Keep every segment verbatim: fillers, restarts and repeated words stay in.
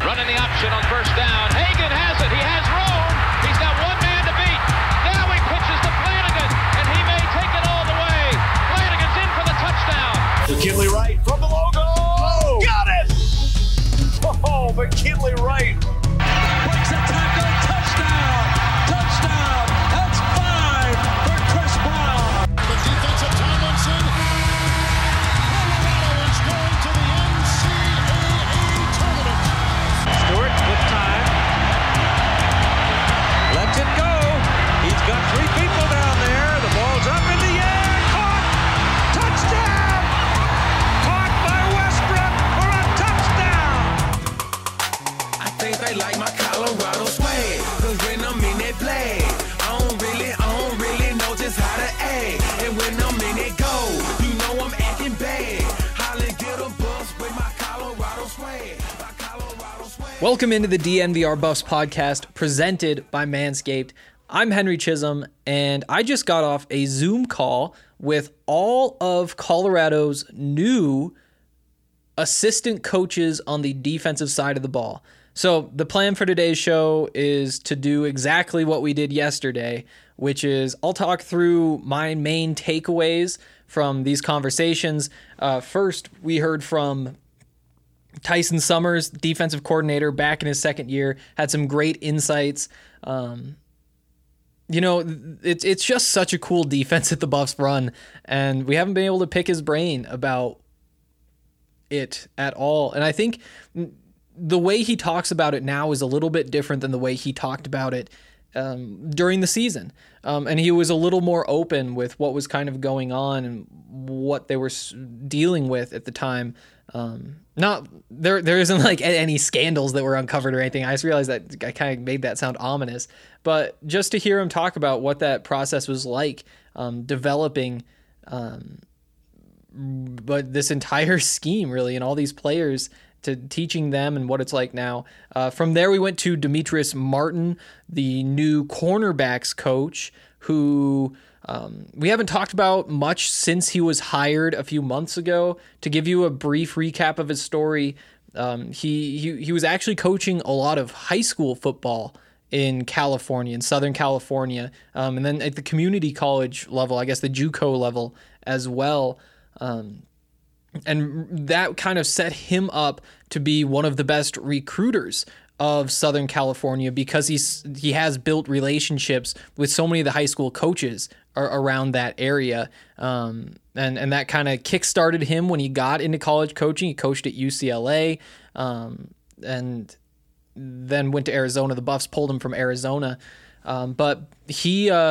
running the option on first down. Hagan has it. He has room. He's got one man to beat. Now he pitches to Flanagan, and he may take it all the way. Flanagan's in for the touchdown. McKinley Wright from the logo. Oh, got it! Oh, McKinley Wright. Breaks a tackle. Touchdown. Touchdown. That's five for Chris Brown. The defensive Tomlinson. Colorado is going to the N C double A tournament. Stewart with time. Lets it go. He's got three people down there. The ball's up in the air. Caught. Touchdown. Caught by Westbrook for a touchdown. I think they like my Colorado swag. Cause when I'm in that play, I don't really, I don't really know just how to act. And when I'm in it go, you know I'm acting bad. Holly get a bus with my Colorado swag. My Colorado swag. Welcome into the D N V R Buffs podcast presented by Manscaped. I'm Henry Chisholm, and I just got off a Zoom call with all of Colorado's new assistant coaches on the defensive side of the ball. So the plan for today's show is to do exactly what we did yesterday, which is I'll talk through my main takeaways from these conversations. Uh, first, we heard from Tyson Summers, defensive coordinator, back in his second year, had some great insights. Um, you know, it's it's just such a cool defense that the Buffs run, and we haven't been able to pick his brain about it at all. And I think the way he talks about it now is a little bit different than the way he talked about it um, during the season. Um, and he was a little more open with what was kind of going on and what they were dealing with at the time. Um, not there, there isn't like any scandals that were uncovered or anything. I just realized that I kind of made that sound ominous, but just to hear him talk about what that process was like, um, developing, um, but this entire scheme really, and all these players, to teaching them and what it's like now. Uh, from there, we went to Demetrius Martin, the new cornerbacks coach, who um, we haven't talked about much since he was hired a few months ago. To give you a brief recap of his story, um, he, he he was actually coaching a lot of high school football in California, in Southern California, um, and then at the community college level, I guess the JUCO level as well. Um, And that kind of set him up to be one of the best recruiters of Southern California because he's he has built relationships with so many of the high school coaches ar- around that area. Um, and, and that kind of kickstarted him when he got into college coaching. He coached at U C L A um, and then went to Arizona. The Buffs pulled him from Arizona. Um, but he... Uh,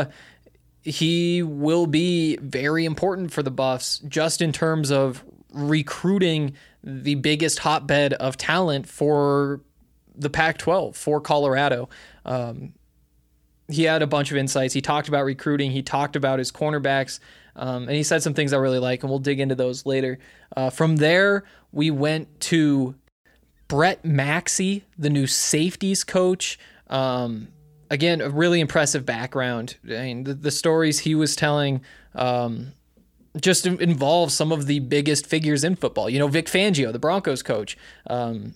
he will be very important for the Buffs just in terms of recruiting the biggest hotbed of talent for the Pac twelve, for Colorado. Um, he had a bunch of insights. He talked about recruiting. He talked about his cornerbacks, um, and he said some things I really like, and we'll dig into those later. Uh, from there, we went to Brett Maxey, the new safeties coach. Um, Again, a really impressive background. I mean, the, the stories he was telling um, just involve some of the biggest figures in football. You know, Vic Fangio, the Broncos coach. Um,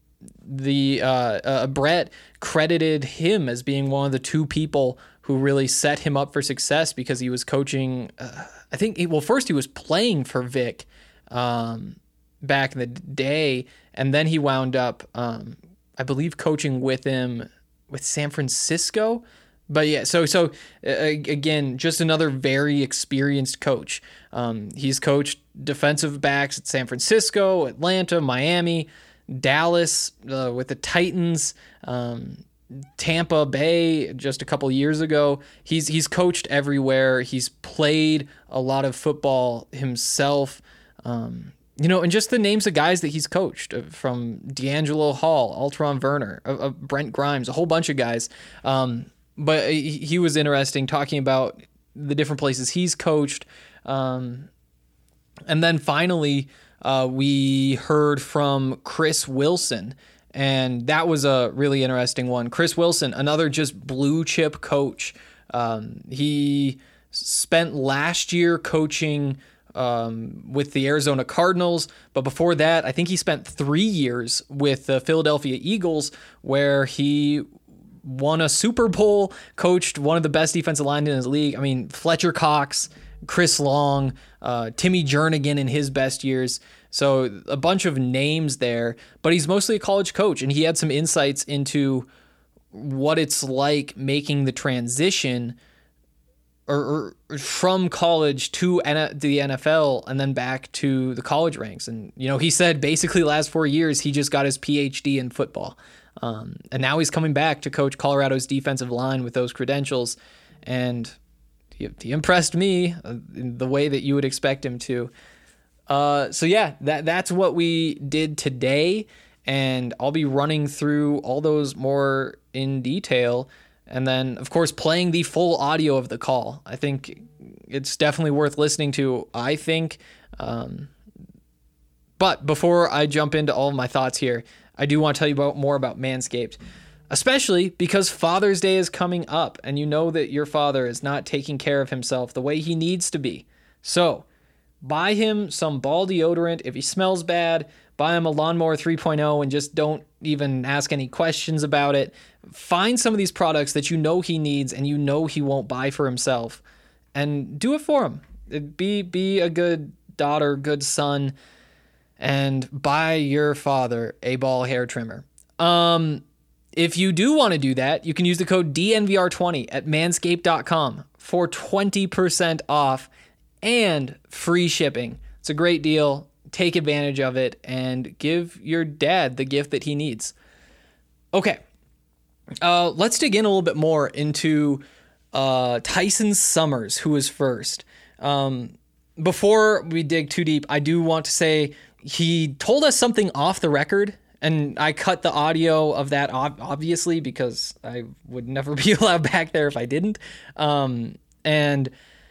the uh, uh, Brett credited him as being one of the two people who really set him up for success because he was coaching. Uh, I think, he, well, first he was playing for Vic um, back in the day, and then he wound up, um, I believe, coaching with him with San Francisco. But yeah, so so uh, again, just another very experienced coach. Um, he's coached defensive backs at San Francisco, Atlanta, Miami, Dallas uh, with the Titans, um, Tampa Bay just a couple years ago. He's he's coached everywhere. He's played a lot of football himself. Um, You know, and just the names of guys that he's coached, from D'Angelo Hall, Alteron Werner, uh, uh, Brent Grimes, a whole bunch of guys. Um, but he, he was interesting talking about the different places he's coached. Um, and then finally, uh, we heard from Chris Wilson, and that was a really interesting one. Chris Wilson, another just blue chip coach. Um, he spent last year coaching um, with the Arizona Cardinals. But before that, I think he spent three years with the Philadelphia Eagles, where he won a Super Bowl, coached one of the best defensive linemen in his league. I mean, Fletcher Cox, Chris Long, uh, Timmy Jernigan in his best years. So a bunch of names there, but he's mostly a college coach, and he had some insights into what it's like making the transition or, or from college to N- the N F L and then back to the college ranks. And, you know, he said basically last four years, he just got his P H D in football. Um, and now he's coming back to coach Colorado's defensive line with those credentials. And he, he impressed me in the way that you would expect him to. Uh, so yeah, that that's what we did today, and I'll be running through all those more in detail, and then of course playing the full audio of the call. I think it's definitely worth listening to. I think, um, but before I jump into all of my thoughts here, I do want to tell you about more about Manscaped, especially because Father's Day is coming up, and you know that your father is not taking care of himself the way he needs to be. So buy him some ball deodorant. If he smells bad, buy him a Lawnmower three point oh and just don't even ask any questions about it. Find some of these products that you know he needs and you know he won't buy for himself, and do it for him. Be, be a good daughter, good son, and buy your father a ball hair trimmer. Um, if you do want to do that, you can use the code D N V R twenty at manscaped dot com for twenty percent off and free shipping. It's a great deal. Take advantage of it and give your dad the gift that he needs. Okay, uh, let's dig in a little bit more into uh, Tyson Summers, who was first. Um, before we dig too deep, I do want to say he told us something off the record, and I cut the audio of that ob- obviously because I would never be allowed back there if I didn't. Um, and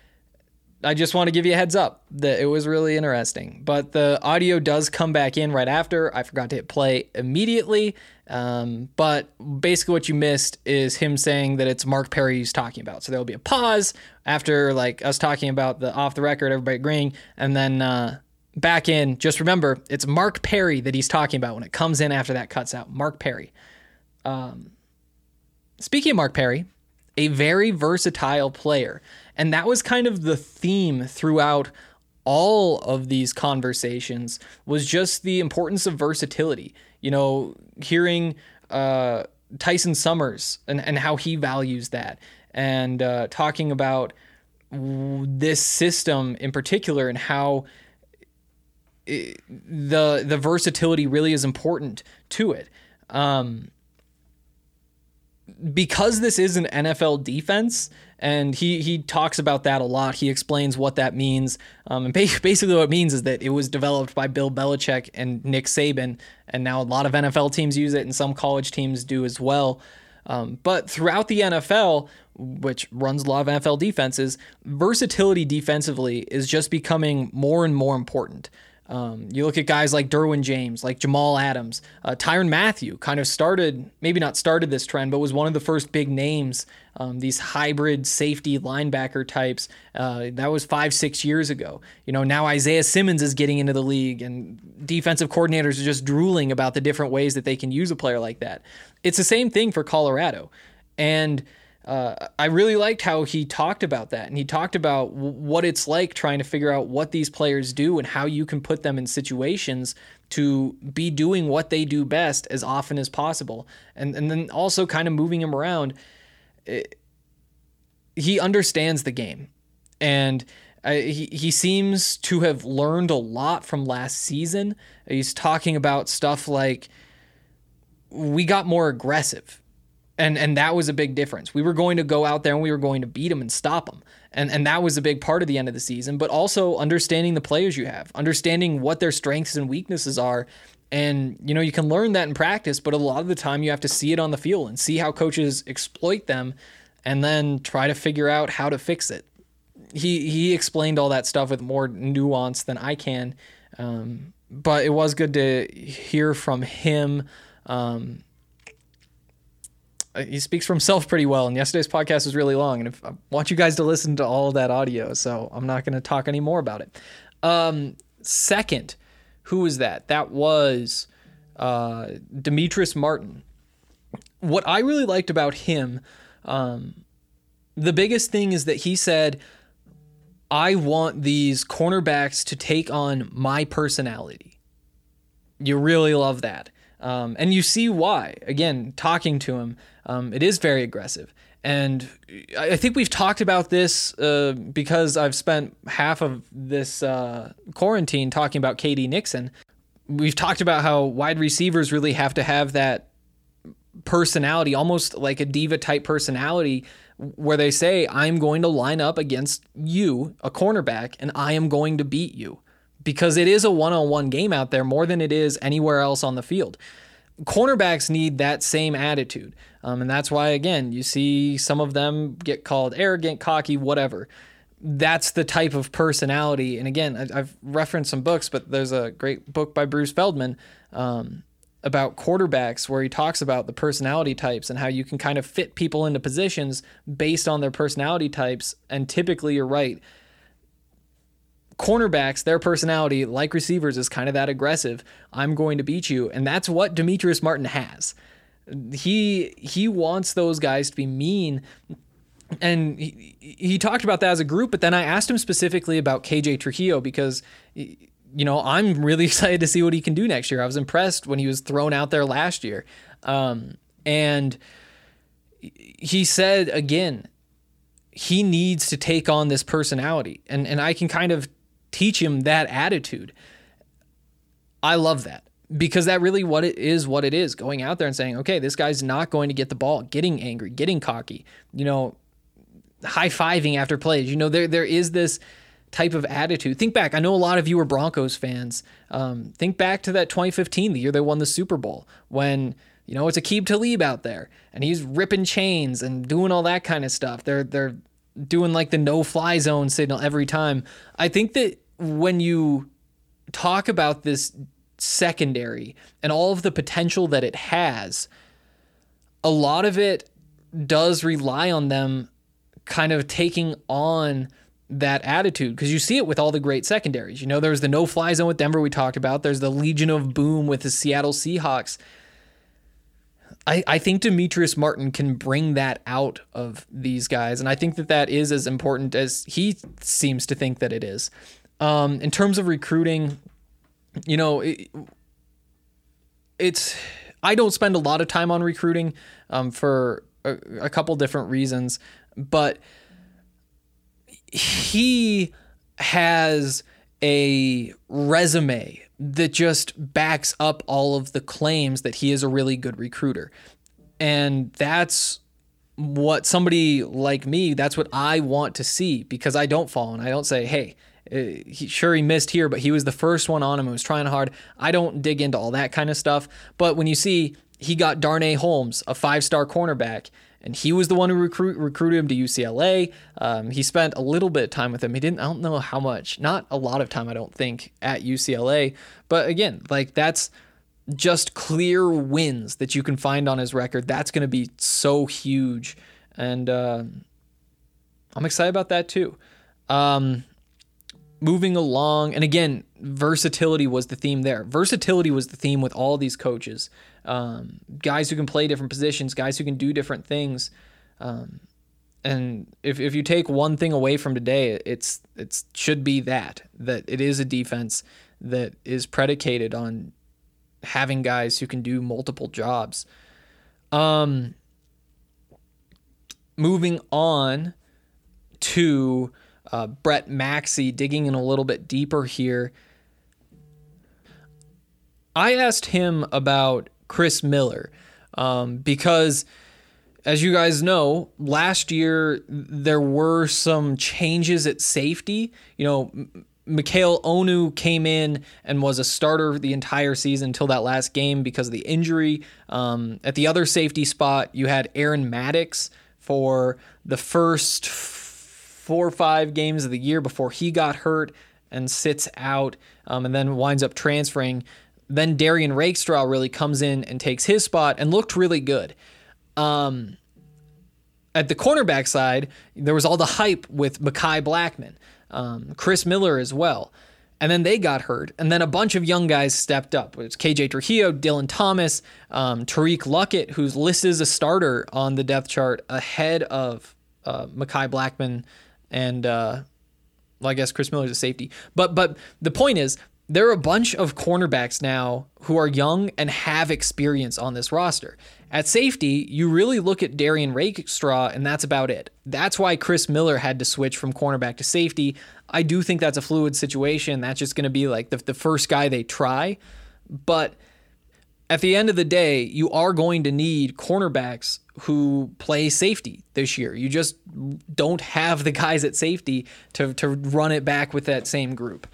I just want to give you a heads up that it was really interesting, but the audio does come back in right after. I forgot to hit play immediately. Um, but basically what you missed is him saying that it's Mark Perry he's talking about. So there'll be a pause after like us talking about the off the record, everybody agreeing, and then, uh, back in. Just remember, it's Mark Perry that he's talking about when it comes in after that cuts out. Mark Perry. Um, speaking of Mark Perry, a very versatile player. And that was kind of the theme throughout all of these conversations, was just the importance of versatility. You know, hearing uh, Tyson Summers and, and how he values that, and uh, talking about this system in particular and how it, the the versatility really is important to it. Um, because this is an N F L defense, and he he talks about that a lot. He explains what that means. Um, and basically what it means is that it was developed by Bill Belichick and Nick Saban, and now a lot of N F L teams use it, and some college teams do as well. Um, but throughout the N F L, which runs a lot of N F L defenses, versatility defensively is just becoming more and more important. Um, you look at guys like Derwin James, like Jamal Adams, uh, Tyrann Mathieu kind of started, maybe not started this trend, but was one of the first big names, um, these hybrid safety linebacker types. Uh, that was five, six years ago. You know, now Isaiah Simmons is getting into the league, and defensive coordinators are just drooling about the different ways that they can use a player like that. It's the same thing for Colorado. And Uh, I really liked how he talked about that, and he talked about w- what it's like trying to figure out what these players do and how you can put them in situations to be doing what they do best as often as possible. And and then also kind of moving him around. It, he understands the game, and uh, he, he seems to have learned a lot from last season. He's talking about stuff like, we got more aggressive. And and that was a big difference. We were going to go out there and we were going to beat them and stop them. And and that was a big part of the end of the season, but also understanding the players you have, understanding what their strengths and weaknesses are. And, you know, you can learn that in practice, but a lot of the time you have to see it on the field and see how coaches exploit them and then try to figure out how to fix it. He, he explained all that stuff with more nuance than I can. Um, but it was good to hear from him. Um, He speaks for himself pretty well, and yesterday's podcast was really long, and if, I want you guys to listen to all of that audio, so I'm not going to talk any more about it. Um, second, who was that? That was uh, Demetrius Martin. What I really liked about him, um, the biggest thing is that he said, I want these cornerbacks to take on my personality. You really love that. Um, and you see why. Again, talking to him, um, it is very aggressive. And I think we've talked about this uh, because I've spent half of this uh, quarantine talking about K D Nixon. We've talked about how wide receivers really have to have that personality, almost like a diva type personality, where they say, I'm going to line up against you, a cornerback, and I am going to beat you. Because it is a one-on-one game out there more than it is anywhere else on the field. Cornerbacks need that same attitude. Um, and that's why, again, you see some of them get called arrogant, cocky, whatever. That's the type of personality. And again, I've referenced some books, but there's a great book by Bruce Feldman um, about quarterbacks where he talks about the personality types and how you can kind of fit people into positions based on their personality types. And typically, you're right. Cornerbacks, their personality, like receivers, is kind of that aggressive. I'm going to beat you. And that's what Demetrius Martin has. He he wants those guys to be mean. And he, he talked about that as a group, but then I asked him specifically about K J Trujillo because, you know, I'm really excited to see what he can do next year. I was impressed when he was thrown out there last year. Um, and he said, again, he needs to take on this personality. And, and I can kind of teach him that attitude. I love that. Because that really what it is, what it is, going out there and saying, okay, this guy's not going to get the ball, getting angry, getting cocky, you know, high-fiving after plays. You know, there there is this type of attitude. Think back. I know a lot of you were Broncos fans. Um, think back to that twenty fifteen, the year they won the Super Bowl, when, you know, it's Aqib Talib out there, and he's ripping chains and doing all that kind of stuff. They're they're doing like the no-fly zone signal every time. I think that when you talk about this secondary and all of the potential that it has, a lot of it does rely on them kind of taking on that attitude, because you see it with all the great secondaries. You know, there's the no-fly zone with Denver we talked about. There's the Legion of Boom with the Seattle Seahawks. I, I think Demetrius Martin can bring that out of these guys, and I think that that is as important as he seems to think that it is. Um, in terms of recruiting, you know, it, it's I don't spend a lot of time on recruiting um, for a, a couple different reasons, but he has a resume that just backs up all of the claims that he is a really good recruiter. And that's what somebody like me, that's what I want to see, because I don't fall and I don't say, hey, Uh, he, sure, he missed here, but he was the first one on him who was trying hard. I don't dig into all that kind of stuff. But when you see he got Darnay Holmes, a five-star cornerback, and he was the one who recruit, recruited him to U C L A. Um, he spent a little bit of time with him. He didn't, I don't know how much, not a lot of time, I don't think, at U C L A. But again, like that's just clear wins that you can find on his record. That's going to be so huge. And uh, I'm excited about that too. Um, Moving along, and again, versatility was the theme there. Versatility was the theme with all these coaches. Um, guys who can play different positions, guys who can do different things. Um, and if if you take one thing away from today, it's it's should be that, that it is a defense that is predicated on having guys who can do multiple jobs. Um, moving on to Uh, Brett Maxey, digging in a little bit deeper here. I asked him about Chris Miller um, because, as you guys know, last year there were some changes at safety. You know, Mikhail Onu came in and was a starter the entire season until that last game because of the injury. Um, at the other safety spot, you had Aaron Maddox for the first four or five games of the year before he got hurt and sits out um, and then winds up transferring. Then Darian Rakestraw really comes in and takes his spot and looked really good. Um, at the cornerback side, there was all the hype with Mekhi Blackman, um, Chris Miller as well. And then they got hurt. And then a bunch of young guys stepped up. It was K J Trujillo, Dylan Thomas, um, Tariq Luckett, who's listed as a starter on the depth chart ahead of uh, Mekhi Blackmon and, uh, well, I guess Chris Miller's a safety. But but the point is, there are a bunch of cornerbacks now who are young and have experience on this roster. At safety, you really look at Darian Rakestraw, and that's about it. That's why Chris Miller had to switch from cornerback to safety. I do think that's a fluid situation. That's just going to be like the, the first guy they try. But at the end of the day, you are going to need cornerbacks who play safety this year. You just don't have the guys at safety to, to run it back with that same group.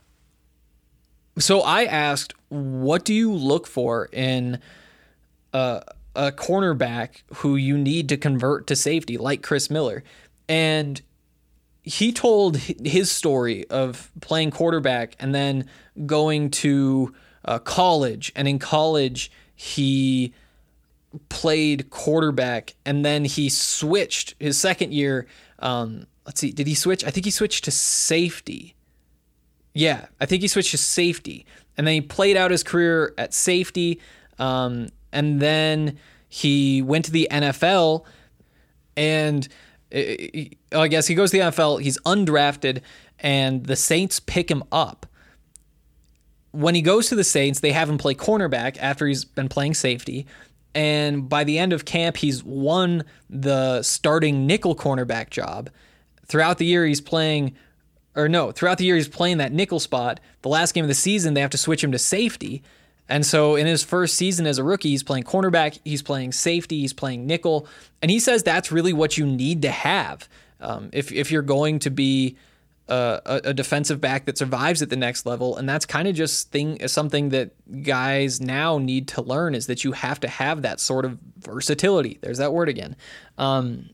So I asked, what do you look for in a, a cornerback who you need to convert to safety, like Chris Miller? And he told his story of playing quarterback and then going to uh, college. And in college, he played quarterback, and then he switched his second year. Um, let's see, did he switch? I think he switched to safety. Yeah, I think he switched to safety, and then he played out his career at safety, um, and then he went to the N F L, and it, I guess he goes to the N F L, he's undrafted, and the Saints pick him up. When he goes to the Saints, they have him play cornerback after he's been playing safety, and by the end of camp, he's won the starting nickel cornerback job. Throughout the year, he's playing... Or no, throughout the year, he's playing that nickel spot. The last game of the season, they have to switch him to safety. And so in his first season as a rookie, he's playing cornerback, he's playing safety, he's playing nickel. And he says that's really what you need to have um, if, if you're going to be a, a defensive back that survives at the next level. And that's kind of just thing something that guys now need to learn, is that you have to have that sort of versatility. There's that word again. Um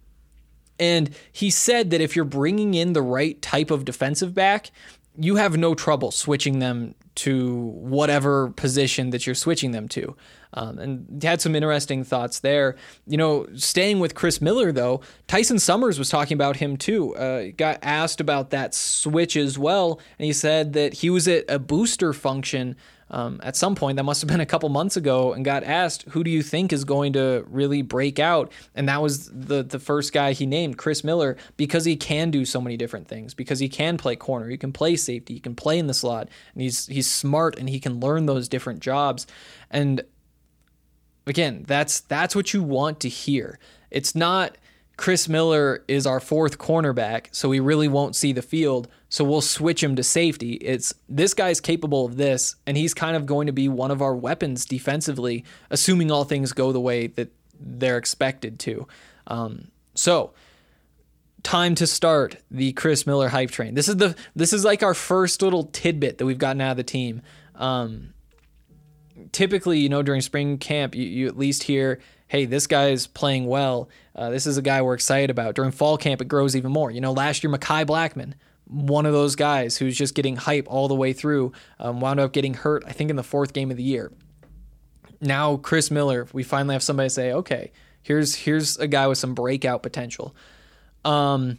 And he said that if you're bringing in the right type of defensive back, you have no trouble switching them to whatever position that you're switching them to. Um, and had some interesting thoughts there. You know, staying with Chris Miller, though, Tyson Summers was talking about him too. Uh, got asked about that switch as well, and he said that he was at a booster function Um, at some point, that must have been a couple months ago, and got asked, who do you think is going to really break out? And that was the the first guy he named, Chris Miller, because he can do so many different things, because he can play corner, he can play safety, he can play in the slot, and he's he's smart and he can learn those different jobs. And again, that's that's what you want to hear. It's not Chris Miller is our fourth cornerback, so we really won't see the field, so we'll switch him to safety. It's this guy's capable of this, and he's kind of going to be one of our weapons defensively, assuming all things go the way that they're expected to. Um, so, time to start the Chris Miller hype train. This is the this is like our first little tidbit that we've gotten out of the team. Um, typically, you know, during spring camp, you, you at least hear, hey, this guy's playing well. Uh, this is a guy we're excited about. During fall camp, it grows even more. You know, last year, Mekhi Blackmon, one of those guys who's just getting hype all the way through, um, wound up getting hurt, I think, in the fourth game of the year. Now, Chris Miller, we finally have somebody say, okay, here's here's a guy with some breakout potential. Um,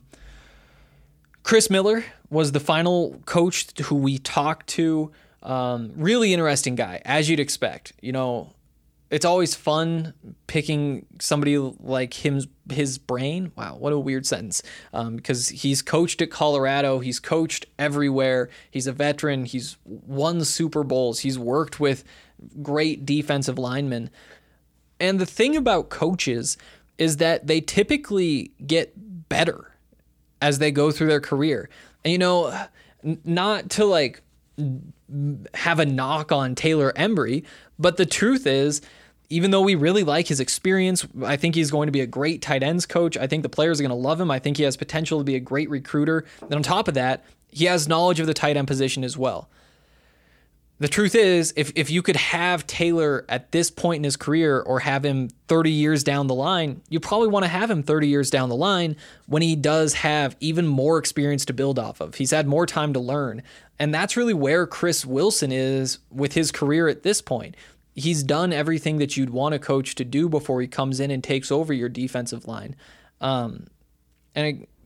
Chris Miller was the final coach who we talked to. Um, really interesting guy, as you'd expect. You know, it's always fun picking somebody like him, his brain. Wow, what a weird sentence. Um, because he's coached at Colorado. He's coached everywhere. He's a veteran. He's won Super Bowls. He's worked with great defensive linemen. And the thing about coaches is that they typically get better as they go through their career. And, you know, not to like have a knock on Taylor Embry, but the truth is, even though we really like his experience, I think he's going to be a great tight ends coach. I think the players are going to love him. I think he has potential to be a great recruiter. And on top of that, he has knowledge of the tight end position as well. The truth is, if if you could have Taylor at this point in his career or have him thirty years down the line, you probably want to have him thirty years down the line when he does have even more experience to build off of. He's had more time to learn. And that's really where Chris Wilson is with his career at this point. He's done everything that you'd want a coach to do before he comes in and takes over your defensive line. Um, and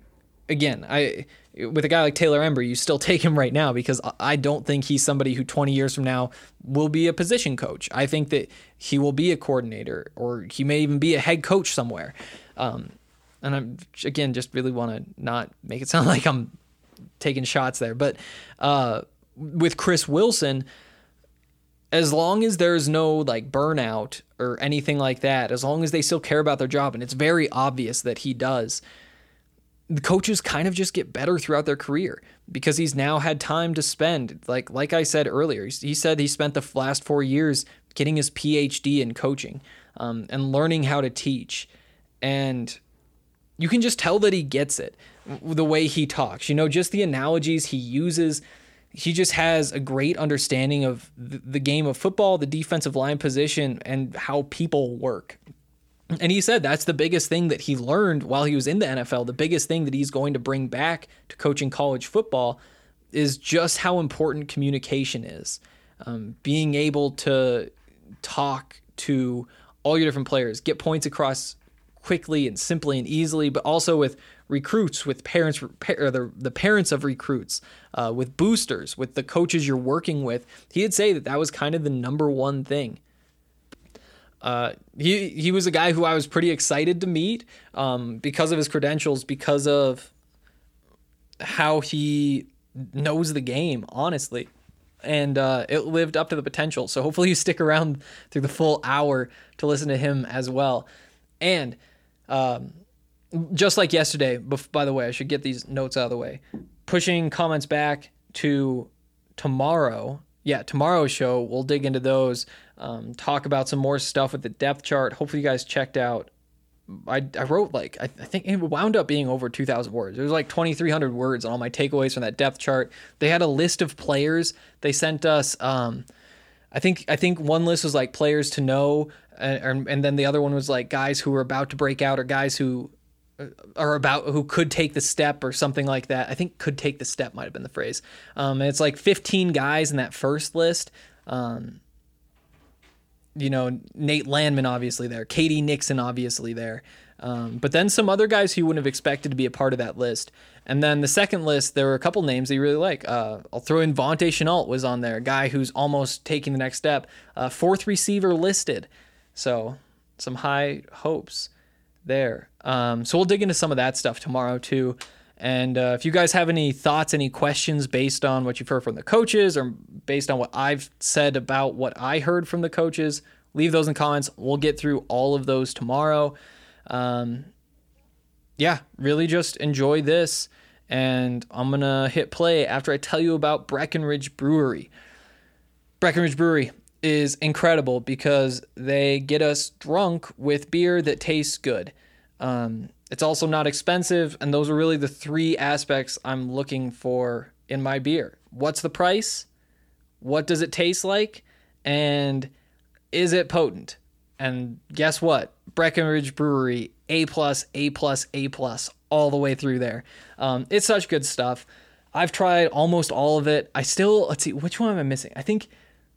again, I with a guy like Taylor Ember, you still take him right now because I don't think he's somebody who twenty years from now will be a position coach. I think that he will be a coordinator, or he may even be a head coach somewhere. Um, and I'm, again, just really want to not make it sound like I'm taking shots there. But uh, with Chris Wilson, as long as there's no like burnout or anything like that, as long as they still care about their job, and it's very obvious that he does, the coaches kind of just get better throughout their career because he's now had time to spend. Like like I said earlier, he said he spent the last four years getting his P H D in coaching um, and learning how to teach. And you can just tell that he gets it, the way he talks. You know, just the analogies he uses. He just has a great understanding of the game of football, the defensive line position, and how people work. And he said that's the biggest thing that he learned while he was in the N F L. The biggest thing that he's going to bring back to coaching college football is just how important communication is. Um, being able to talk to all your different players, get points across quickly and simply and easily, but also with recruits, with parents, or the, the parents of recruits, uh, with boosters, with the coaches you're working with. He'd say that that was kind of the number one thing. Uh, he he was a guy who I was pretty excited to meet um, because of his credentials, because of how he knows the game, honestly. And uh, it lived up to the potential. So hopefully you stick around through the full hour to listen to him as well. And um, just like yesterday, by the way, I should get these notes out of the way. Pushing comments back to tomorrow. Yeah, tomorrow's show, we'll dig into those, um, talk about some more stuff with the depth chart. Hopefully you guys checked out. I, I wrote like, I, I think it wound up being over two thousand words. It was like twenty-three hundred words on all my takeaways from that depth chart. They had a list of players. They sent us, um, I think I think one list was like players to know, and, and then the other one was like guys who were about to break out or guys who are about who could take the step or something like that. I think could take the step might have been the phrase. Um, and it's like fifteen guys in that first list. Um, you know, Nate Landman obviously there, K D Nixon obviously there. Um, but then some other guys who you wouldn't have expected to be a part of that list. And then the second list, there were a couple names that you really like. Uh, I'll throw in Vontae Chenault was on there, a guy who's almost taking the next step. Uh, fourth receiver listed. So some high hopes there. Um, so we'll dig into some of that stuff tomorrow too. And uh, if you guys have any thoughts, any questions based on what you've heard from the coaches or based on what I've said about what I heard from the coaches, leave those in the comments. We'll get through all of those tomorrow. Um, yeah, really just enjoy this. And I'm going to hit play after I tell you about Breckenridge Brewery. Breckenridge Brewery is incredible because they get us drunk with beer that tastes good. Um, it's also not expensive, and those are really the three aspects I'm looking for in my beer. What's the price? What does it taste like? And is it potent? And guess what? Breckenridge Brewery, A plus, A plus, A plus, all the way through there. Um, it's such good stuff. I've tried almost all of it. I still, let's see, which one am I missing? I think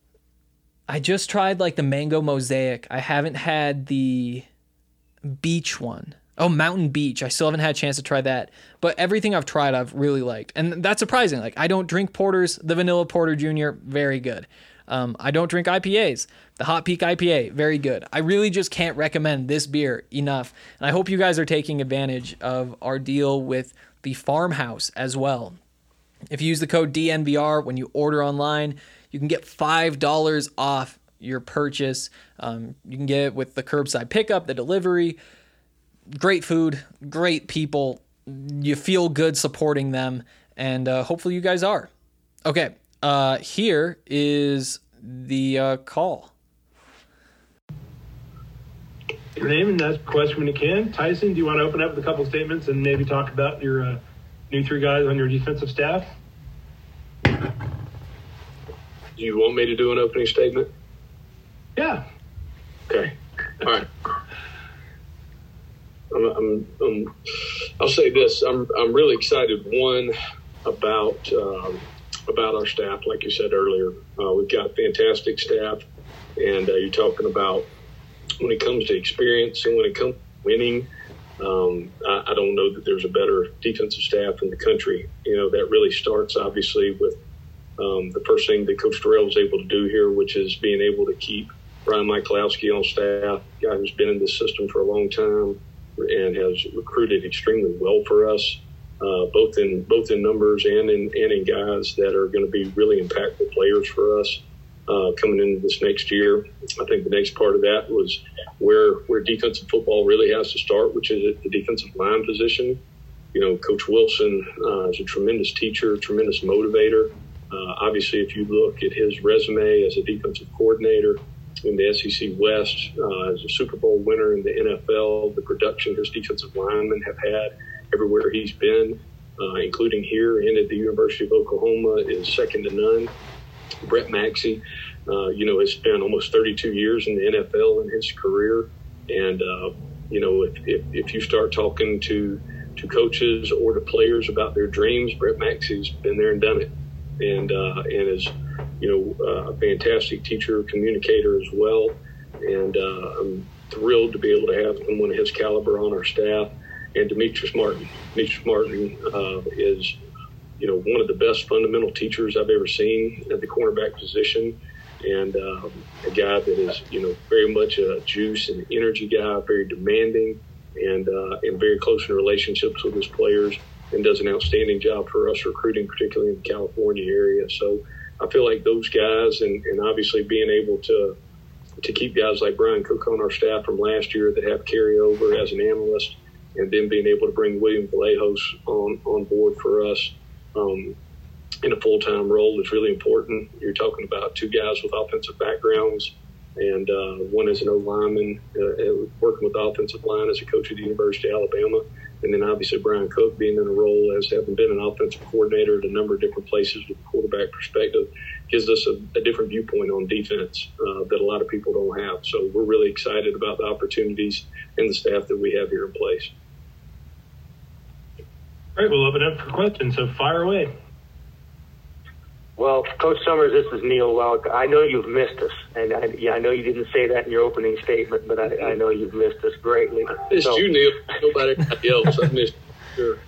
I just tried like the Mango Mosaic. I haven't had the beach one. Oh, Mountain Beach. I still haven't had a chance to try that. But everything I've tried, I've really liked. And that's surprising. Like, I don't drink porters. The Vanilla Porter Junior, very good. Um, I don't drink I P As. The Hot Peak I P A, very good. I really just can't recommend this beer enough. And I hope you guys are taking advantage of our deal with the Farmhouse as well. If you use the code D N V R when you order online, you can get five dollars off your purchase. Um, you can get it with the curbside pickup, the delivery. Great food, great people. You feel good supporting them, and uh, hopefully you guys are. Okay, uh, here is the uh, call. Your name and ask a question when you can. Tyson, do you want to open up with a couple statements and maybe talk about your uh, new three guys on your defensive staff? Do you want me to do an opening statement? Yeah. Okay. All right. I'm, I'm, I'm, I'll say this. I'm, I'm really excited, one, about um, about our staff, like you said earlier. Uh, we've got fantastic staff, and uh, you're talking about when it comes to experience and when it comes to winning, Um, I, I don't know that there's a better defensive staff in the country. You know, that really starts obviously with um, the first thing that Coach Dorrell was able to do here, which is being able to keep Brian Michalowski on staff, a guy who's been in this system for a long time and has recruited extremely well for us, uh, both in both in numbers and in and in guys that are going to be really impactful players for us uh, coming into this next year. I think the next part of that was where where defensive football really has to start, which is at the defensive line position. You know, Coach Wilson uh, is a tremendous teacher, tremendous motivator. Uh, obviously, if you look at his resume as a defensive coordinator in the S E C West, uh, as a Super Bowl winner in the N F L, the production his defensive linemen have had everywhere he's been, uh, including here and at the University of Oklahoma, is second to none. Brett Maxey, uh, you know, has spent almost thirty-two years in the N F L in his career. And, uh, you know, if, if, if you start talking to, to coaches or to players about their dreams, Brett Maxey's been there and done it. And, uh, and is, you know, uh, a fantastic teacher, communicator as well. And uh, I'm thrilled to be able to have someone of his caliber on our staff. And Demetrius Martin. Demetrius Martin uh, is, you know, one of the best fundamental teachers I've ever seen at the cornerback position. And uh, a guy that is, you know, very much a juice and energy guy, very demanding, and uh, and very close in relationships with his players, and does an outstanding job for us recruiting, particularly in the California area. So I feel like those guys, and, and obviously being able to to keep guys like Brian Cook on our staff from last year that have carryover as an analyst, and then being able to bring William Vallejos on, on board for us um, in a full-time role is really important. You're talking about two guys with offensive backgrounds, and uh, one is an O-lineman, uh, working with the offensive line as a coach at the University of Alabama. And then obviously Brian Cook being in a role as having been an offensive coordinator at a number of different places with a quarterback perspective gives us a, a different viewpoint on defense uh, that a lot of people don't have. So we're really excited about the opportunities and the staff that we have here in place. All right, we'll open up for questions, so fire away. Well, Coach Summers, this is Neil Welk. I know you've missed us, and I, yeah, I know you didn't say that in your opening statement, but I, I know you've missed us greatly. I missed so. you, Neil. Nobody else. I missed you.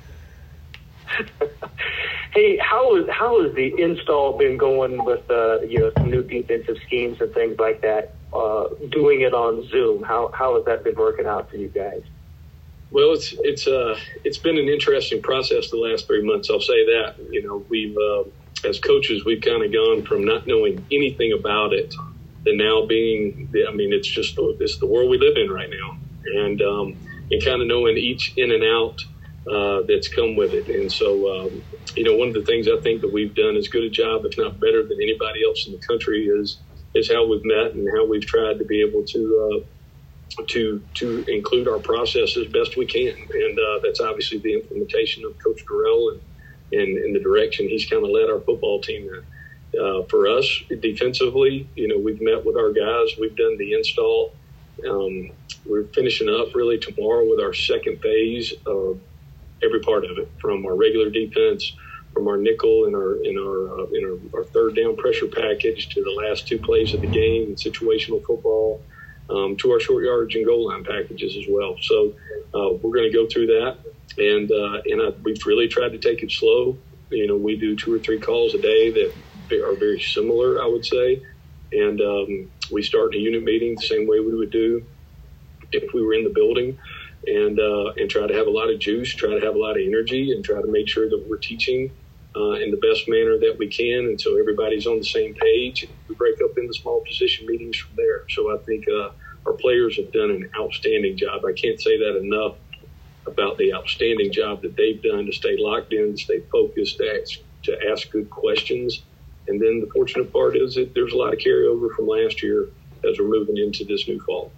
Sure. Hey, how is how has the install been going with uh, you know some new defensive schemes and things like that? Uh, doing it on Zoom, how how has that been working out for you guys? Well, it's it's uh it's been an interesting process the last three months. I'll say that. You know, we've uh, as coaches, we've kind of gone from not knowing anything about it to now being, I mean, it's just it's the world we live in right now, and um, and kind of knowing each in and out uh, that's come with it. And so, um, you know, one of the things I think that we've done as good a job, if not better than anybody else in the country, is is how we've met and how we've tried to be able to uh, to to include our process as best we can. And uh, that's obviously the implementation of Coach Dorrell and and, and the direction he's kind of led our football team in. Uh, for us, defensively, you know, we've met with our guys. We've done the install. Um, we're finishing up really tomorrow with our second phase of every part of it, from our regular defense, from our nickel and our in our uh, in our, our third down pressure package to the last two plays of the game and situational football, um, to our short yardage and goal line packages as well. So uh, we're going to go through that, and uh, and I, we've really tried to take it slow. You know, we do two or three calls a day that are very similar, I would say, and um, we start a unit meeting the same way we would do if we were in the building, and uh, and try to have a lot of juice, try to have a lot of energy, and try to make sure that we're teaching uh, in the best manner that we can, and so everybody's on the same page. We break up into small position meetings from there. So I think uh, our players have done an outstanding job. I can't say that enough about the outstanding job that they've done to stay locked in, to stay focused, to ask, to ask good questions. And then the fortunate part is that there's a lot of carryover from last year as we're moving into this new fall.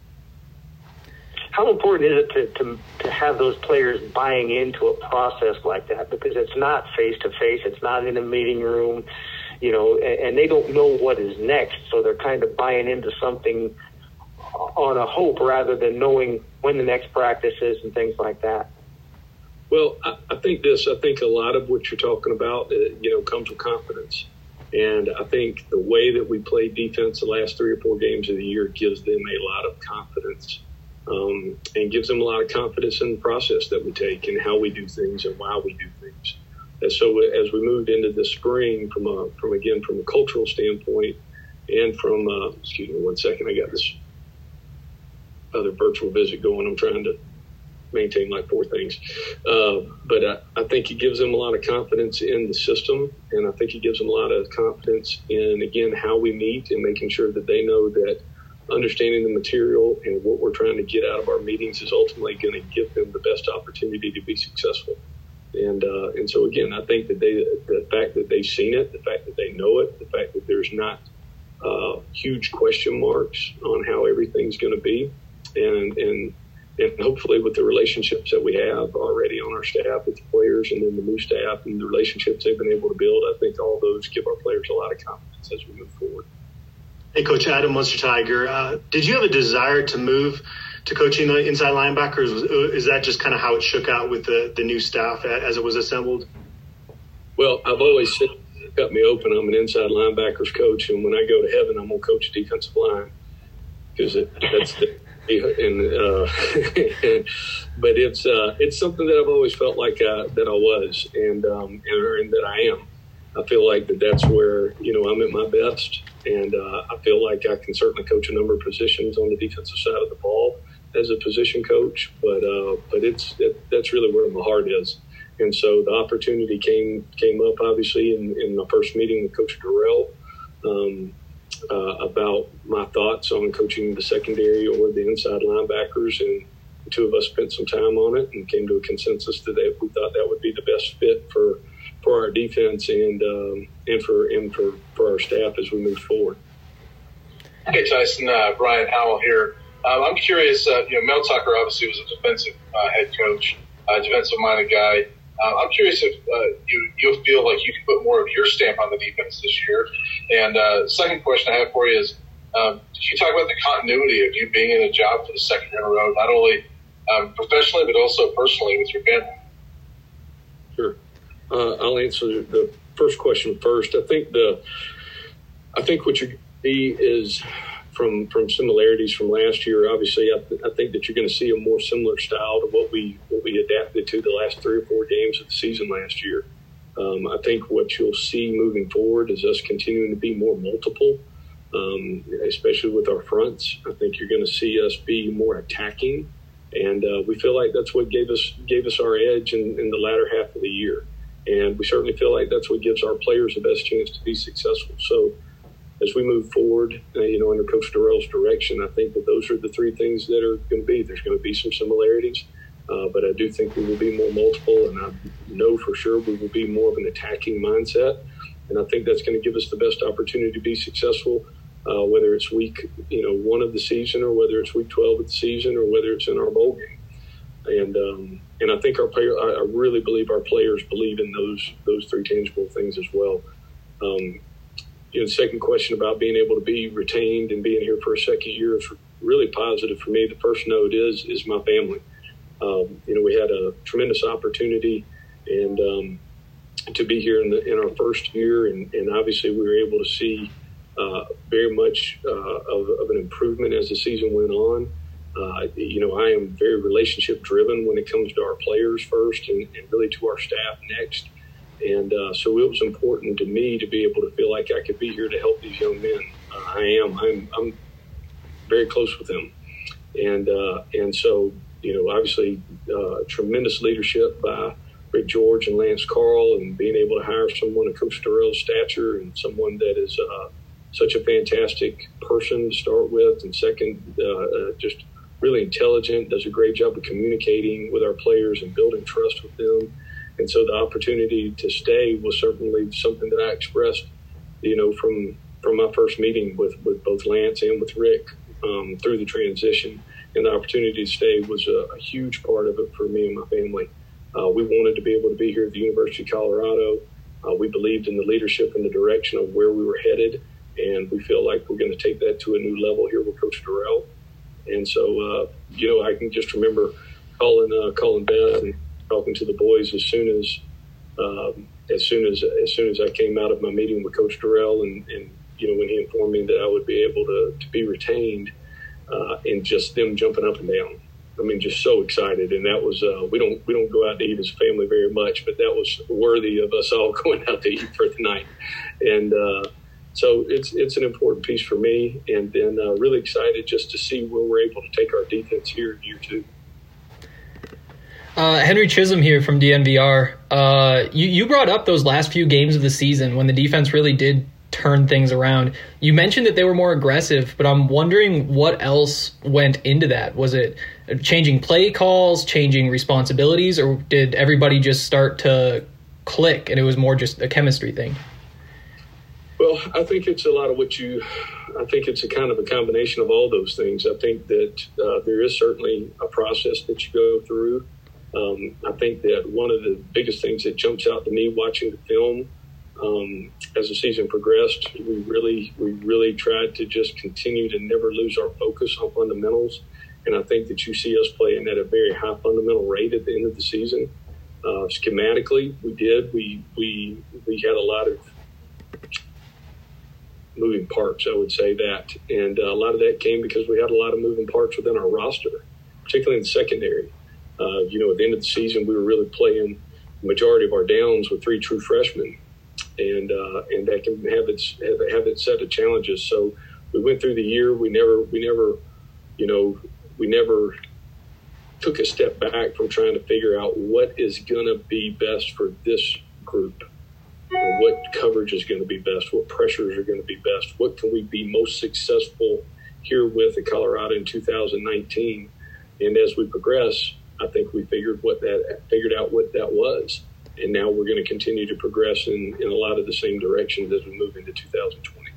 How important is it to, to, to have those players buying into a process like that? Because it's not face-to-face, it's not in a meeting room, you know, and, and they don't know what is next, so they're kind of buying into something on a hope rather than knowing when the next practice is and things like that. Well, I, I think this, I think a lot of what you're talking about, uh, you know, comes with confidence. And I think the way that we played defense the last three or four games of the year gives them a lot of confidence um, and gives them a lot of confidence in the process that we take and how we do things and why we do things. And so as we moved into the spring, from a, from again from a cultural standpoint, and from uh, excuse me one second, I got this other virtual visit going. I'm trying to maintain like four things, uh, but I, I think it gives them a lot of confidence in the system, and I think it gives them a lot of confidence in again how we meet and making sure that they know that understanding the material and what we're trying to get out of our meetings is ultimately going to give them the best opportunity to be successful. And uh, and so again, I think that they, the fact that they've seen it, the fact that they know it, the fact that there's not uh, huge question marks on how everything's going to be, and and and hopefully with the relationships that we have already on our staff with the players, and then the new staff and the relationships they've been able to build, I think all those give our players a lot of confidence as we move forward. Hey, Coach Adam Munster Tiger, uh, did you have a desire to move to coaching the inside linebackers? Is that just kind of how it shook out with the, the new staff as it was assembled? Well, I've always said, cut me open, I'm an inside linebackers coach, and when I go to heaven, I'm going to coach defensive line, because it, that's the and uh, but it's uh, it's something that I've always felt like uh, that I was, and um, and, and that I am. I feel like that that's where, you know, I'm at my best, and uh, I feel like I can certainly coach a number of positions on the defensive side of the ball as a position coach, but uh, but it's it, that's really where my heart is. And so the opportunity came came up obviously in, in my first meeting with Coach Dorrell um, uh, about my thoughts on coaching the secondary or the inside linebackers, and the two of us spent some time on it and came to a consensus that they, we thought that would be the best fit for. for our defense and um, and for and for, for our staff as we move forward. Hey Tyson, uh, Brian Howell here. Um, I'm curious. Uh, you know, Mel Tucker obviously was a defensive uh, head coach, uh, defensive-minded guy. Uh, I'm curious if uh, you you'll feel like you can put more of your stamp on the defense this year. And uh, second question I have for you is, um, did you talk about the continuity of you being in a job for the second year in a row, not only um, professionally but also personally with your family? Sure. Uh, I'll answer the first question first. I think the, I think what you're going to see is from from similarities from last year. Obviously, I, th- I think that you're going to see a more similar style to what we what we adapted to the last three or four games of the season last year. Um, I think what you'll see moving forward is us continuing to be more multiple, um, especially with our fronts. I think you're going to see us be more attacking, and uh, we feel like that's what gave us gave us our edge in, in the latter half of the year. And we certainly feel like that's what gives our players the best chance to be successful. So as we move forward, uh, you know, under Coach Dorrell's direction, I think that those are the three things that are going to be. There's going to be some similarities, uh, but I do think we will be more multiple, and I know for sure we will be more of an attacking mindset. And I think that's going to give us the best opportunity to be successful, uh, whether it's week, you know, one of the season, or whether it's week twelve of the season, or whether it's in our bowl game. And um, and I think our player, I really believe our players believe in those those three tangible things as well. Um, you know, the second question about being able to be retained and being here for a second year is really positive for me. The first note is is my family. Um, you know, we had a tremendous opportunity and um, to be here in the in our first year, and, and obviously we were able to see uh, very much uh, of, of an improvement as the season went on. Uh, you know, I am very relationship driven when it comes to our players first, and, and really to our staff next. And uh, so it was important to me to be able to feel like I could be here to help these young men. Uh, I am. I'm, I'm very close with them. And uh, and so, you know, obviously uh, tremendous leadership by Rick George and Lance Carl, and being able to hire someone of Coach Dorrell's stature and someone that is uh, such a fantastic person to start with, and second, uh, uh, just really intelligent, does a great job of communicating with our players and building trust with them. And so the opportunity to stay was certainly something that I expressed, you know, from from my first meeting with, with both Lance and with Rick um, through the transition. And the opportunity to stay was a, a huge part of it for me and my family. Uh, we wanted to be able to be here at the University of Colorado. Uh, we believed in the leadership and the direction of where we were headed, and we feel like we're going to take that to a new level here with Coach Dorrell. And so, uh, you know, I can just remember calling uh, calling Beth and talking to the boys as soon as um, as soon as as soon as I came out of my meeting with Coach Dorrell, and, and you know, when he informed me that I would be able to, to be retained, uh, and just them jumping up and down. I mean, just so excited. And that was, uh, we don't we don't go out to eat as a family very much, but that was worthy of us all going out to eat for the night. And uh, so it's it's an important piece for me. And then uh, really excited just to see where we're able to take our defense here in year two. Uh, Henry Chisholm here from D N V R. Uh, you, you brought up those last few games of the season when the defense really did turn things around. You mentioned that they were more aggressive, but I'm wondering what else went into that. Was it changing play calls, changing responsibilities, or did everybody just start to click and it was more just a chemistry thing? Well, I think it's a lot of what you – I think it's a kind of a combination of all those things. I think that uh, there is certainly a process that you go through. Um, I think that one of the biggest things that jumps out to me watching the film Um, as the season progressed, we really, we really tried to just continue to never lose our focus on fundamentals. And I think that you see us playing at a very high fundamental rate at the end of the season. Uh, schematically, we did. We, we, we had a lot of moving parts, I would say that. And uh, a lot of that came because we had a lot of moving parts within our roster, particularly in the secondary. Uh, you know, at the end of the season, we were really playing the majority of our downs with three true freshmen. And uh, and that can have its have, have its set of challenges. So we went through the year. We never we never, you know, we never took a step back from trying to figure out what is going to be best for this group, and what coverage is going to be best, what pressures are going to be best, what can we be most successful here with at Colorado in two thousand nineteen. And as we progress, I think we figured what that figured out what that was. And now we're going to continue to progress in, in a lot of the same directions as we move into two thousand twenty.